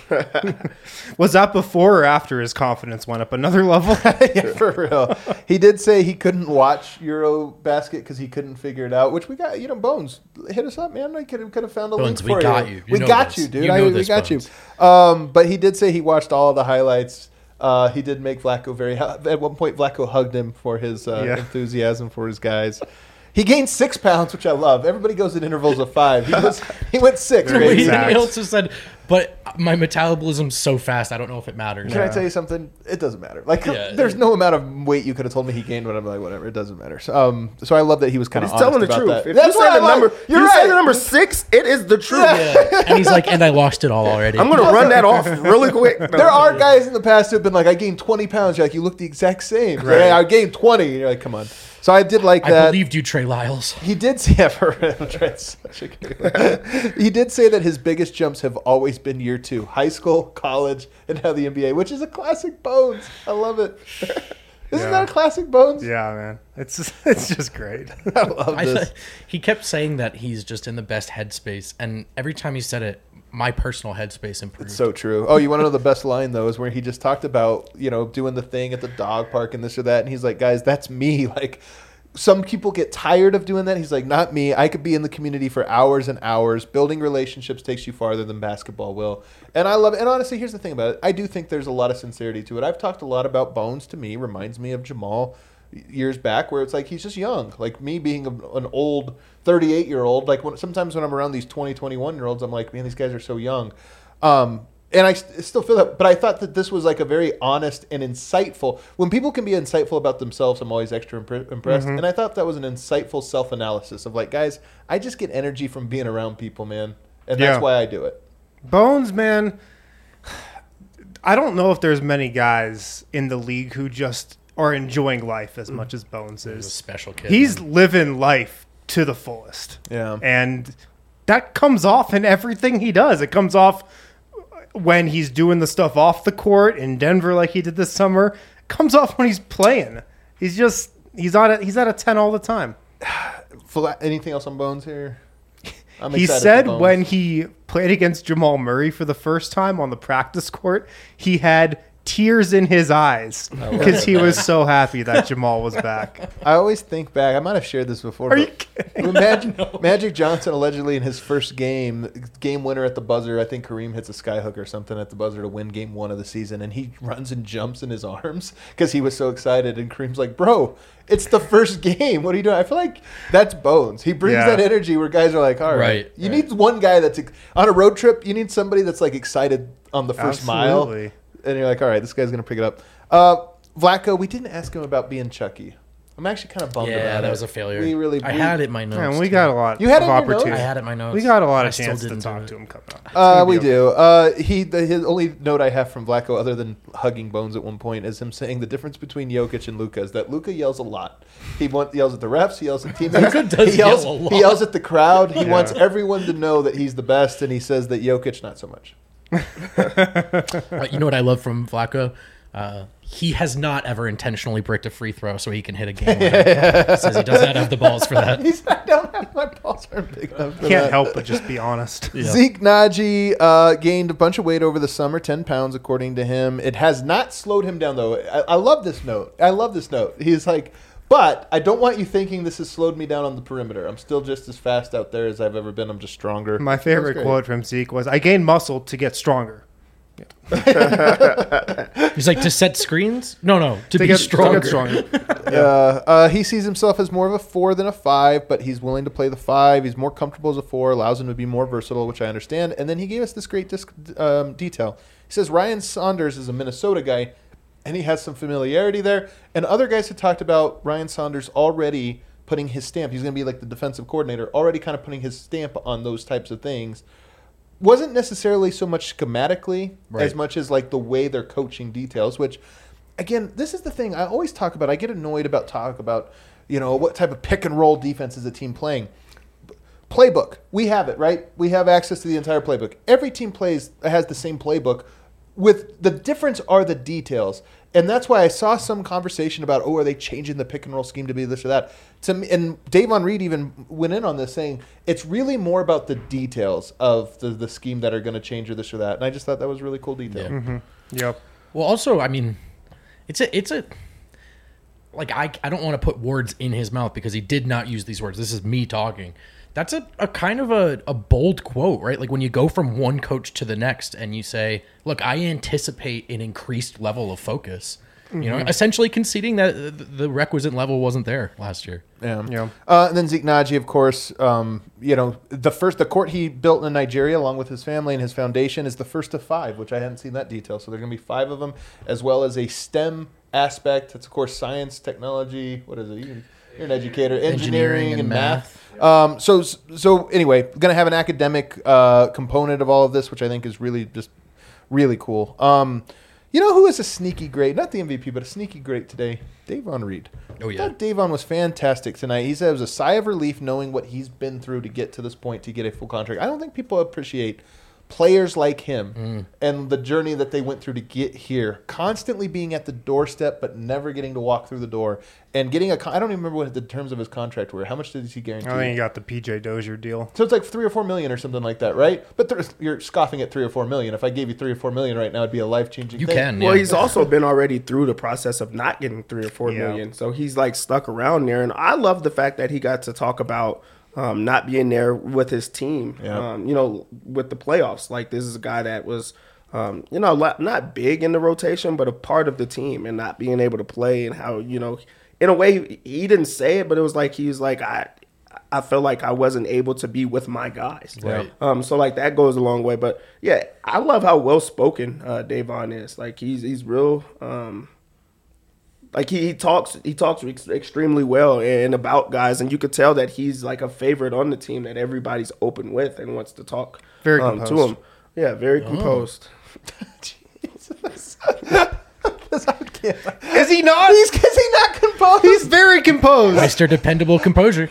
Was that before or after his confidence went up another level? Yeah, for real. He did say he couldn't watch Euro Basket because he couldn't figure it out. Which we got, you know, Bones hit us up, man. I could have could have found a Bones, link we for got you. you. You we know got this. you, dude. You I, know we this, got Bones. you. Um, but he did say he watched all the highlights. Uh, he did make Vlatko very. At one point, Vlatko hugged him for his uh, Yeah. enthusiasm for his guys. He gained six pounds, which I love. Everybody goes in intervals of five. He was he went six. Very baby. He exact. also said, but my metabolism's so fast, I don't know if it matters. Can I tell you something? It doesn't matter. Like, Yeah. there's no amount of weight you could have told me he gained, but I'm like, whatever. It doesn't matter. So, um, so I love that he was kind of He's honest telling the about truth. that. If That's you what say I the like. number, You're you right. say the number six, it is the truth. Yeah. And he's like, and I lost it all already. I'm gonna run that off really quick. No. There are guys in the past who've been like, I gained twenty pounds. You're like, you look the exact same. Right. Right. I gained twenty. And you're like, come on. So I did like I that. believed you, Trey Lyles. He did say, yeah, for real, Trent's such a good- he did say that his biggest jumps have always been year two, high school, college, and now the N B A, which is a classic Bones. I love it. Isn't Yeah. that a classic Bones? Yeah, man. It's just, it's just great. I love I, this. he kept saying that he's just in the best headspace, and every time he said it, my personal headspace improved. So true. Oh, you want to know the best line though? Is where he just talked about, you know, doing the thing at the dog park and this or that, and he's like, guys, that's me. Like, some people get tired of doing that. He's like, not me. I could be in the community for hours and hours. Building relationships takes you farther than basketball will. And I love it. And honestly, here's the thing about it. I do think there's a lot of sincerity to it. I've talked a lot about Bones. To me, reminds me of Jamal years back, where it's like he's just young. Like me being a, an old thirty-eight year old. Like when, sometimes when I'm around these twenty, twenty-one year olds, I'm like, man, these guys are so young. Um, and I st- still feel that, but I thought that this was like a very honest and insightful. When people can be insightful about themselves, I'm always extra impre- impressed. And I thought that was an insightful self-analysis of like, guys, I just get energy from being around people, man, and that's Yeah. why I do it. Bones, man. I don't know if there's many guys in the league who just are enjoying life as much as Bones He's a is. special kid. He's man. living life to the fullest. Yeah. And that comes off in everything he does. It comes off when he's doing the stuff off the court in Denver like he did this summer. It comes off when he's playing. He's just he's on a, he's at a ten all the time. Fla- Anything else on Bones here? I'm He excited for said Bones. when he played against Jamal Murray for the first time on the practice court, he had tears in his eyes love because it, he man. was so happy that Jamal was back. I always think back. I might have shared this before. Are you but kidding? when Magic, Magic Johnson allegedly in his first game, game winner at the buzzer. I think Kareem hits a skyhook or something at the buzzer to win game one of the season, and he runs and jumps in his arms because he was so excited. And Kareem's like, "Bro, it's the first game. What are you doing?" I feel like that's Bones. He brings Yeah. that energy where guys are like, "All right, Right, you right. need one guy that's ex- on a road trip. You need somebody that's like excited on the first mile." Absolutely. And you're like, all right, this guy's going to pick it up. Uh, Vlatko, we didn't ask him about being Chucky. I'm actually kind of bummed Yeah, about it. that was a failure. We really. I we- had it in my notes. Man, we too. got a lot You had of it in your notes? opportunity. I had it in my notes. We got a lot I of still chance to didn't do talk it. to him coming up. It's Uh, gonna we be do. Uh, he the, his only note I have from Vlatko, other than hugging Bones at one point, is him saying the difference between Jokic and Luka is that Luka yells a lot. He want, yells at the refs. He yells at teammates. Luka does he yells, yell a lot. He yells at the crowd. He Yeah. wants everyone to know that he's the best, and he says that Jokic not so much. Uh, you know what I love from Flacco? Uh, he has not ever intentionally bricked a free throw so he can hit a game winner. Says he does not have the balls for that. He's I don't have my balls aren't big enough. For Can't that. help but just be honest. Yeah. Zeke Naji uh, gained a bunch of weight over the summer, ten pounds according to him. It has not slowed him down though. I, I love this note. I love this note. He's like, but I don't want you thinking this has slowed me down on the perimeter. I'm still just as fast out there as I've ever been. I'm just stronger. My favorite That's great. quote from Zeke was, "I gained muscle to get stronger." He's like, to set screens? No, no, to, To be get, to stronger. get stronger. Uh, uh, he sees himself as more of a four than a five, but he's willing to play the five. He's more comfortable as a four, allows him to be more versatile, which I understand. And then he gave us this great disc, um, detail. He says Ryan Saunders is a Minnesota guy, and he has some familiarity there. And other guys had talked about Ryan Saunders already putting his stamp. He's going to be like the defensive coordinator, already kind of putting his stamp on those types of things. Wasn't necessarily so much schematically Right. as much as like the way they're coaching details, which again, this is the thing I always talk about. I get annoyed about talk about, you know, what type of pick and roll defense is a team playing. Playbook. We have it, right? We have access to the entire playbook. Every team plays has the same playbook. With the difference are the details. And that's why I saw some conversation about, oh, are they changing the pick and roll scheme to be this or that? To me, and Davon Reed even went in on this saying it's really more about the details of the, the scheme that are going to change or this or that. And I just thought that was a really cool detail. Yeah. Yep. Well, also, I mean, it's a, it's a, like, I, I don't want to put words in his mouth because he did not use these words. This is me talking. That's a, a kind of a, a bold quote, right? Like when you go from one coach to the next and you say, look, I anticipate an increased level of focus, you know, essentially conceding that the, the requisite level wasn't there last year. Yeah. Yeah. Uh, and then Zeke Naji, of course, um, you know, the first, the court he built in Nigeria along with his family and his foundation is the first of five, which I hadn't seen that detail. So there are going to be five of them, as well as a STEM aspect. That's, of course, science, technology. What is it? You, you're an educator. Engineering, Engineering and, and math. Um, so, so anyway, going to have an academic uh, component of all of this, which I think is really just really cool. Um, you know who is a sneaky great? Not the M V P, but a sneaky great today? Davon Reed. Oh, I yeah. thought Davon was fantastic tonight. He said it was a sigh of relief knowing what he's been through to get to this point to get a full contract. I don't think people appreciate players like him Mm. and the journey that they went through to get here, constantly being at the doorstep but never getting to walk through the door and getting a con- I don't even remember what the terms of his contract were. How much did he guarantee? I think you got the P J Dozier deal. So it's like three or four million or something like that, right? But there's, you're scoffing at three or four million. If I gave you three or four million right now, it'd be a life changing. You thing. can, Well, yeah. he's also been already through the process of not getting three or four Yeah. million, so he's like stuck around there. And I love the fact that he got to talk about um, not being there with his team. Yeah. Um, you know, with the playoffs. Like this is a guy that was, um, you know, la- not big in the rotation, but a part of the team, and not being able to play, and how, you know, in a way he didn't say it, but it was like he was like I. I felt like I wasn't able to be with my guys. Right. Um, so like that goes a long way. But yeah, I love how well spoken uh, Davon is. Like he's he's real. Um, like he, he talks he talks ex- extremely well and about guys, and you could tell that he's like a favorite on the team that everybody's open with and wants to talk Very um, to composed. him. Yeah, very composed. Jesus. I can't. Is he not? He's, is he not composed? He's very composed. Mister Dependable Composure.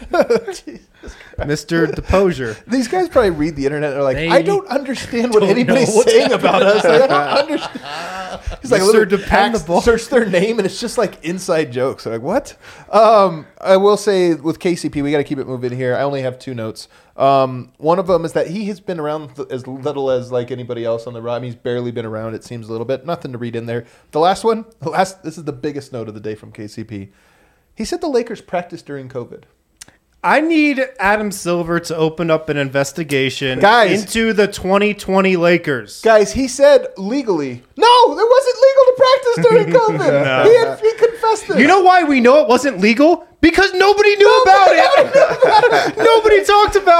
Mister Deposure. These guys probably read the internet. They're like, They I don't understand what don't anybody's know what's saying about us. Like, I don't understand. He's like, Mister literally Dependable. hacks, search their name, and it's just like inside jokes. They're like, what? Um, I will say with K C P, we got to keep it moving here. I only have two notes. Um, one of them is that he has been around th- as little as like anybody else on the road. I mean, he's barely been around. It seems a little bit. Nothing to read in there. The last one, the last. This is the biggest note of the day from K C P. He said the Lakers practiced during COVID. I need Adam Silver to open up an investigation Guys. into the twenty twenty Lakers. Guys, he said legally. No, it wasn't legal to practice during COVID. No. he, had, he confessed this. You know why we know it wasn't legal? Because nobody knew about it. Nobody talked about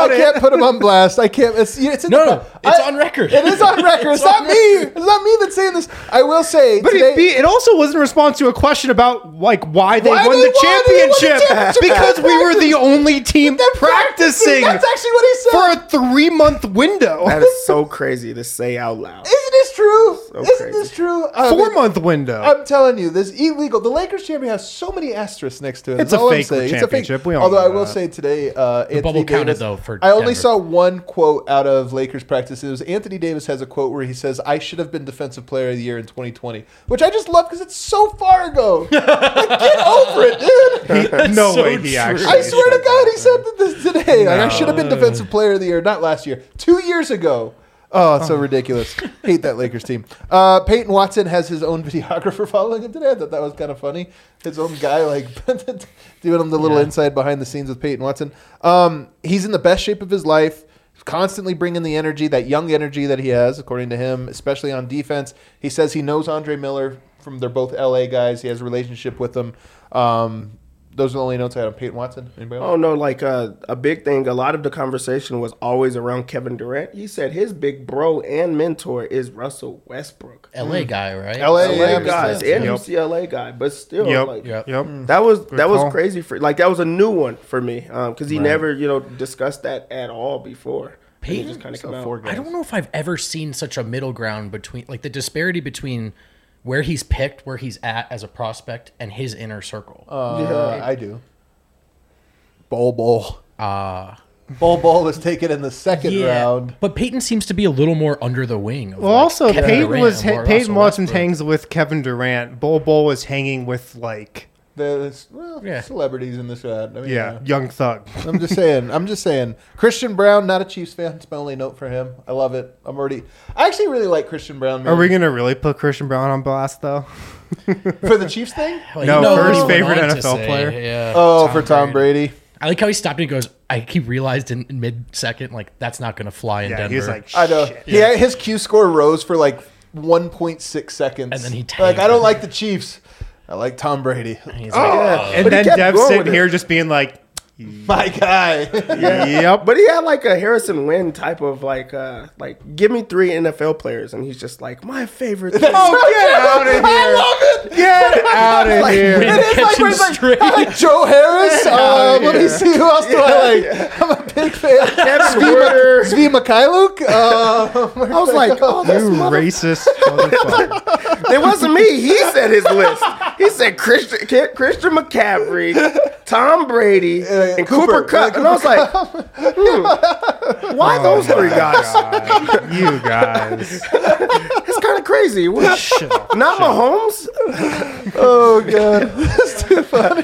about I it. can't put him on blast. I can't. It's, it's in No, the, no, it's I- on record. It is on record. It's, It's not on me. It's not me that's saying this. I will say But today. it, be, it also was in response to a question about like why they Why won they the won- they won the championship championship because at we were the practice. only team They're practicing That's actually what he said. for a three month window, That is so crazy to say out loud. Isn't this true? Isn't crazy. this true? I four mean, month window. I'm telling you, this illegal. The Lakers champion has so many asterisks next to it. It's That's a all I'm fake saying. championship. We all Although know I will that. say today, uh, Anthony bubble counted, Davis. though, for I only Denver. saw one quote out of Lakers practice. It was Anthony Davis has a quote where he says, "I should have been Defensive Player of the Year in twenty twenty," which I just love because it's so far ago. Like, get over it, dude. no so way he true. actually. I swear to said God, that. he said that this today. Like, I should have been Defensive Player of the Year, not last year, two years ago. Oh, it's so ridiculous. Hate that Lakers team. Uh, Peyton Watson has his own videographer following him today. I thought that was kind of funny. His own guy, like, doing him the little Yeah. inside behind the scenes with Peyton Watson. Um, he's in the best shape of his life, constantly bringing the energy, that young energy that he has, according to him, especially on defense. He says he knows Andre Miller from, they're both L A guys. He has a relationship with them. Um, those are the only notes I had on Peyton Watson. Anybody else? Oh no, like uh, a big thing. A lot of the conversation was always around Kevin Durant. He said his big bro and mentor is Russell Westbrook. L A guy, right? L A, L A yeah, guys makes and Yep. U C L A guy, but still, Yep. like Yep. Yep. that was Good that was call. crazy for like that was a new one for me because he never you know discussed that at all before. And it Peyton? just kind of So come four out. guys. I don't know if I've ever seen such a middle ground between, like, the disparity between where he's picked, where he's at as a prospect, and his inner circle. Uh, I do. Bol Bol. Uh, Bol Bol was taken in the second round. But Peyton seems to be a little more under the wing. Of Well, like also Kevin Peyton Durant was or Peyton Russell Watson Westbrook. hangs with Kevin Durant. Bol Bol was hanging with like There's well, Yeah. celebrities in this round. I mean, yeah, Young Thug. I'm just saying. I'm just saying. Christian Brown, not a Chiefs fan. It's my only note for him. I love it. I'm already. I actually really like Christian Brown. Man. Are we gonna really put Christian Brown on blast though? for the Chiefs thing? Well, No, you know first what he went favorite on to N F L say, player. Yeah. Oh, for Tom Brady. I like how he stopped and he goes, I he realized in, in mid second, like, that's not going to fly in Yeah, Denver. he was like, I know. shit. Yeah, his Q score rose for like one point six seconds. And then he like, tanked I don't it. like the Chiefs. I like Tom Brady. And he's Oh, like, yeah. And But he then kept Dev going sitting with it. here just being like, My guy. yep. But he had like a Harrison Wynn type of like uh like give me three N F L players and he's just like my favorite. thing. Oh, get out of here! I love it. Get out of here! It is like, where it's like, straight. I like Joe Harris. Uh, let me here. see who else do I like. I'm a big fan. Kevin Zvi, Porter. Zvi Mikhailuk. Uh, I was like, oh, this You racist motherfucker. It wasn't me. He said his list. He said Christian Ki- Christian McCaffrey, Tom Brady, Uh, and Cooper. Cooper Cup. Yeah, And I was like, hmm, why those three guys? God, you guys. It's kind of crazy. What- Shit. Not Mahomes. Oh god, that's too funny.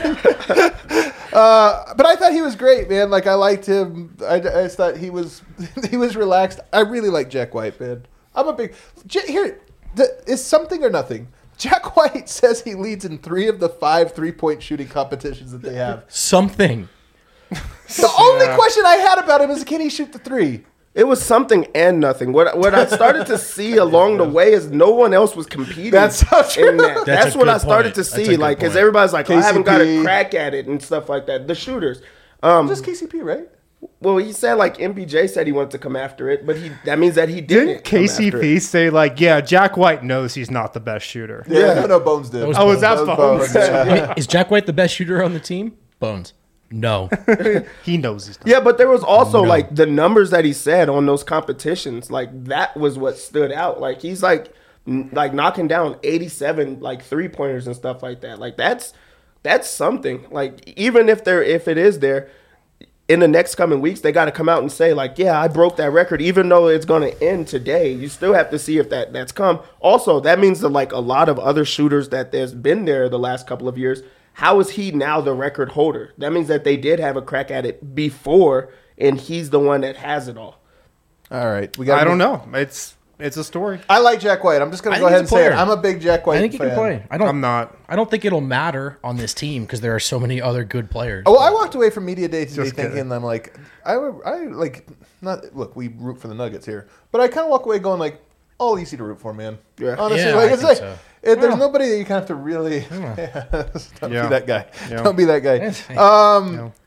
Uh, but I thought he was great, man. Like I liked him. I, I just thought he was he was relaxed. I really like Jack White, man. I'm a big J- here. The, is something or nothing. Jack White says he leads in three of the five three-point shooting competitions that they have. something. The only question I had about him is, can he shoot the three? It was something and nothing. What what I started to see along the way is no one else was competing. That's so true. in that. That's That's, a what good I started point. to That's a see. good Like, because point. everybody's like, oh, I haven't got K C P. a crack at it and stuff like that. The shooters. Um, Just K C P, right? well, he said like M B J said he wanted to come after it, but he that means that he didn't. Didn't come K after C P it. say like, yeah, Jack White knows he's not the best shooter? Yeah, no, no, Bones did. was Oh, is that That was Bones? yeah. Is Jack White the best shooter on the team? Bones. No. He knows he's not. Yeah, but there was also No. like the numbers that he said on those competitions. Like that was what stood out. Like he's like n- like knocking down eighty-seven like three pointers and stuff like that. Like that's that's something. Like even if there if it is there in the next coming weeks, they got to come out and say like, yeah, I broke that record. Even though it's going to end today, you still have to see if that that's come. Also, that means that like a lot of other shooters that there's been there the last couple of years. How is he now the record holder? That means that they did have a crack at it before, and he's the one that has it all. All right, we got. I don't know. It's it's a story. I like Jack White. I'm just gonna I go think ahead he's and a say it. player. I'm a big Jack White I think he fan. can play. I don't. I'm not. I don't think it'll matter on this team because there are so many other good players. Oh, well, I walked away from media day today Just thinking kidding. I'm like, I, would- I like not look. We root for the Nuggets here, but I kind of walk away going like, all easy to root for, man. Yeah. Honestly, Yeah, like I it's think like so. it, there's Well. nobody that you kind of have to really. don't Yeah. be that guy. Yeah. Don't be that guy. Yes. Um,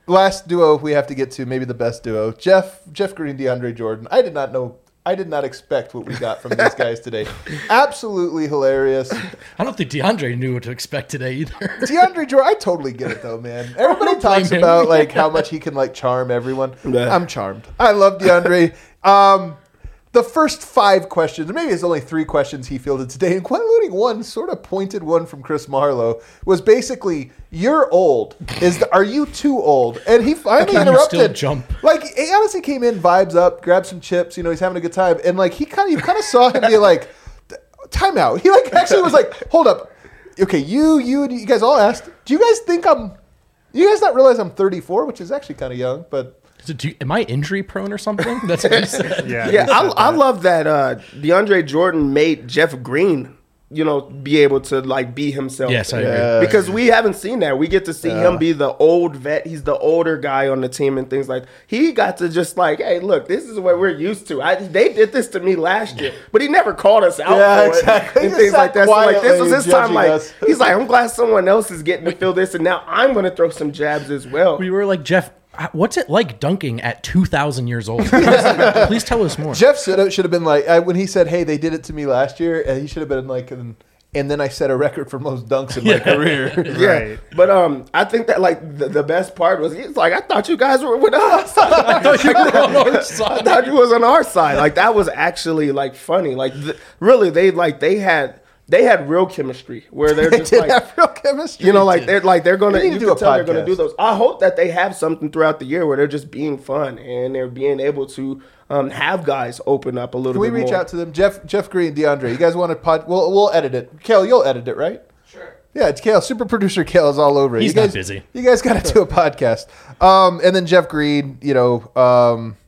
last duo we have to get to, maybe the best duo. Jeff Jeff Green, DeAndre Jordan. I did not know. I did not expect what we got from these guys today. Absolutely hilarious. I don't think DeAndre knew what to expect today either. DeAndre Jordan, I totally get it though, man. Everybody don't blame talks him. about like how much he can like charm everyone. Yeah. I'm charmed. I love DeAndre. Um, the first five questions, maybe it's only three questions he fielded today, including one sort of pointed one from Chris Marlowe, was basically, "You're old. Is the, are you too old?" And he finally Can you interrupted. still jump? Like he honestly came in, vibes up, grabbed some chips. You know, he's having a good time, and like he kind of, you kind of saw him be like, "Time out." He like actually was like, "Hold up, okay, you, you, and you guys all asked. Do you guys think I'm? You guys not realize I'm thirty-four, which is actually kind of young, but." So do you, am I injury prone or something? That's what he said. Yeah, Yeah, he said I, I that. love that uh, DeAndre Jordan made Jeff Green, you know, be able to like be himself. Yes, I agree. Yeah. Because we haven't seen that. We get to see Yeah. him be the old vet. He's the older guy on the team and things like. He got to just like, hey, look, this is what we're used to. I, they did this to me last year, but he never called us out Yeah, for exactly. it He and just things sat like that. So like this was quietly his time. judging Like us. he's like, I'm glad someone else is getting to feel this, and now I'm going to throw some jabs as well. We were like, Jeff, what's it like dunking at two thousand years old? Please, please tell us more. Jeff should have, should have been like, I, when he said, "Hey, they did it to me last year," and he should have been like, and, and then I set a record for most dunks in my career. Yeah, Right. but um, I think that like the, the best part was he's like, I thought you guys were with us. I thought you were on our I side. thought you was on our side. Like that was actually like funny. Like th- really, they like they had they had real chemistry where they're They just did like. have real chemistry. You know, like they're like they're gonna. We need to You do can a tell they're gonna podcast. do those. I hope that they have something throughout the year where they're just being fun and they're being able to um, have guys open up a little Can we bit reach more. out to them? Jeff, Jeff Green, DeAndre. You guys want to pod? We'll we'll edit it. Kale, you'll edit it, right? Sure. Yeah, it's Kale. Super producer Kale is all over it. He's you not guys, busy. You guys got to do a podcast. Um, and then Jeff Green, you know, um,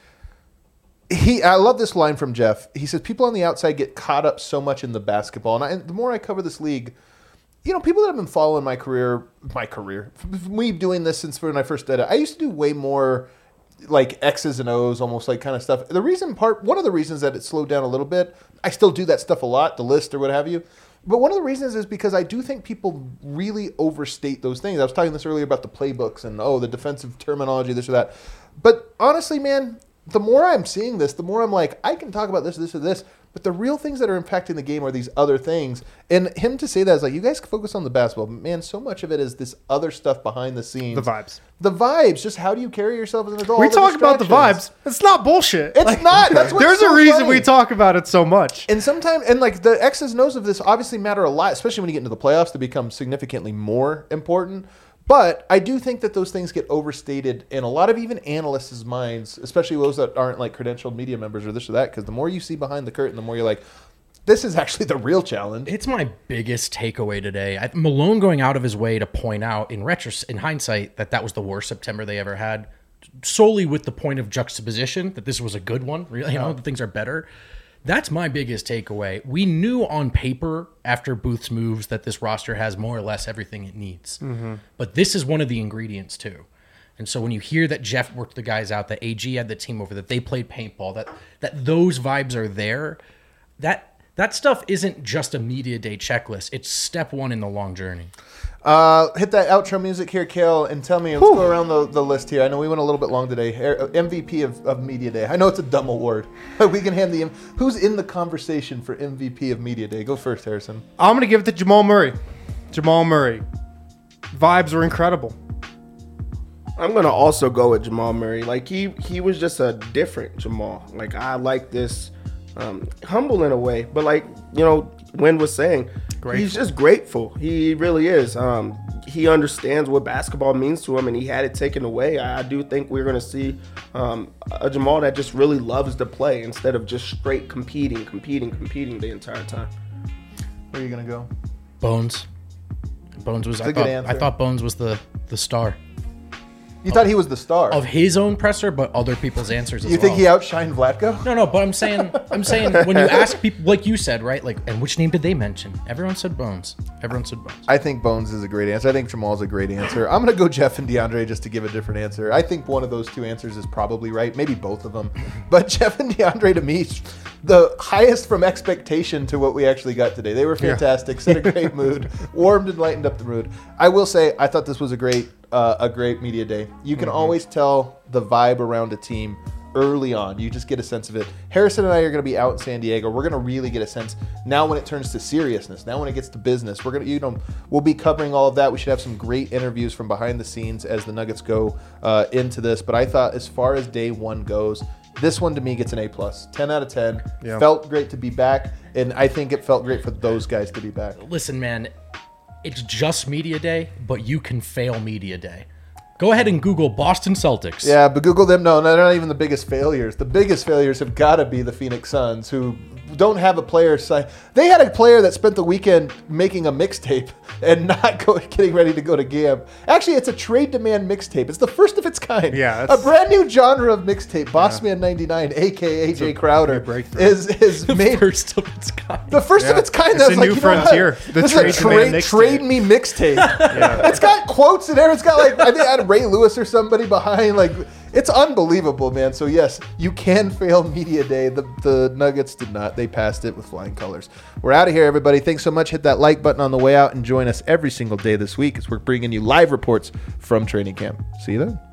he. I love this line from Jeff. He says, "People on the outside get caught up so much in the basketball." And, I, and the more I cover this league, you know, people that have been following my career, my career, me doing this since when I first did it, I used to do way more like X's and O's, almost like kind of stuff. The reason part, one of the reasons that it slowed down a little bit, I still do that stuff a lot, the list or what have you. But one of the reasons is because I do think people really overstate those things. I was talking this earlier about the playbooks and, oh, the defensive terminology, this or that. But honestly, man, the more I'm seeing this, the more I'm like, I can talk about this, this, or this. But the real things that are impacting the game are these other things. And him to say that is like, you guys focus on the basketball. But man, so much of it is this other stuff behind the scenes. The vibes. The vibes. Just how do you carry yourself as an adult? We all the talk about the distractions. vibes. It's not bullshit. It's not. That's what's There's so a reason funny. we talk about it so much. And sometimes, and like the X's and O's of this obviously matter a lot, especially when you get into the playoffs, they become significantly more important. But I do think that those things get overstated in a lot of even analysts' minds, especially those that aren't like credentialed media members or this or that, because the more you see behind the curtain, the more you're like, this is actually the real challenge. It's my biggest takeaway today. I, Malone going out of his way to point out in retros, in hindsight, that that was the worst September they ever had, solely with the point of juxtaposition that this was a good one. Really, you know, that things are better. That's my biggest takeaway. We knew on paper after Booth's moves that this roster has more or less everything it needs. Mm-hmm. But this is one of the ingredients too. And so when you hear that Jeff worked the guys out, that A G had the team over, that they played paintball, that that those vibes are there, that that stuff isn't just a media day checklist. It's step one in the long journey. Uh, hit that outro music here, Kale, and tell me, let's go around the, the list here. I know we went a little bit long today. M V P of, of Media Day. I know it's a dumb award, but we can hand the... Who's in the conversation for M V P of Media Day? Go first, Harrison. I'm going to give it to Jamal Murray. Jamal Murray. Vibes were incredible. I'm gonna also go with Jamal Murray. Like he he was just a different Jamal. Like I like this, um, humble in a way, but like you know, Wynn was saying, Grateful. he's just grateful. He really is. Um, he understands what basketball means to him, and he had it taken away. I, I do think we're gonna see um, a Jamal that just really loves to play instead of just straight competing, competing, competing the entire time. Where are you going to go? Bones. Bones was. a I good thought, answer. I thought Bones was the the star You thought he was the star. of his own presser, but other people's answers as You well. think he outshined Vlatko? No, no, but I'm saying, I'm saying when you ask people, like you said, right? Like, and which name did they mention? Everyone said Bones. Everyone said Bones. I think Bones is a great answer. I think Jamal's a great answer. I'm going to go Jeff and DeAndre just to give a different answer. I think one of those two answers is probably right. Maybe both of them. But Jeff and DeAndre, to me, the highest from expectation to what we actually got today. They were fantastic, set a great mood, warmed and lightened up the mood. I will say, I thought this was a great uh, a great media day. You can Mm-hmm. always tell the vibe around a team early on. You just get a sense of it. Harrison and I are going to be out in San Diego. We're going to really get a sense now when it turns to seriousness. Now when it gets to business, we're going to, you know, we'll be covering all of that. We should have some great interviews from behind the scenes as the Nuggets go uh, into this. But I thought as far as day one goes, this one to me gets an A plus, ten out of ten. Yeah. Felt great to be back, and I think it felt great for those guys to be back. Listen, man, it's just media day, but you can fail media day. Go ahead and Google Boston Celtics. Yeah, but Google them. No, they're not even the biggest failures. The biggest failures have got to be the Phoenix Suns, who don't have a player. Si- they had a player that spent the weekend making a mixtape and not go, getting ready to go to Gam. Actually, it's a trade demand mixtape. It's the first of its kind. Yeah, a that's- brand new genre of mixtape. Bossman ninety-nine, aka Jay Crowder, breakthrough. is is The made first of its kind. the first of Yeah. its kind. It's That's a like, new you know what? frontier. The This trade is a demand trade, mixtape. trade me mixtape. It's got quotes in there. It's got like I think I had Ray Lewis or somebody behind. Like it's unbelievable, man. So yes, you can fail media day. The the Nuggets did not. They passed it with flying colors. We're out of here, everybody. Thanks so much. Hit that like button on the way out and join us every single day this week as we're bringing you live reports from training camp. See you then.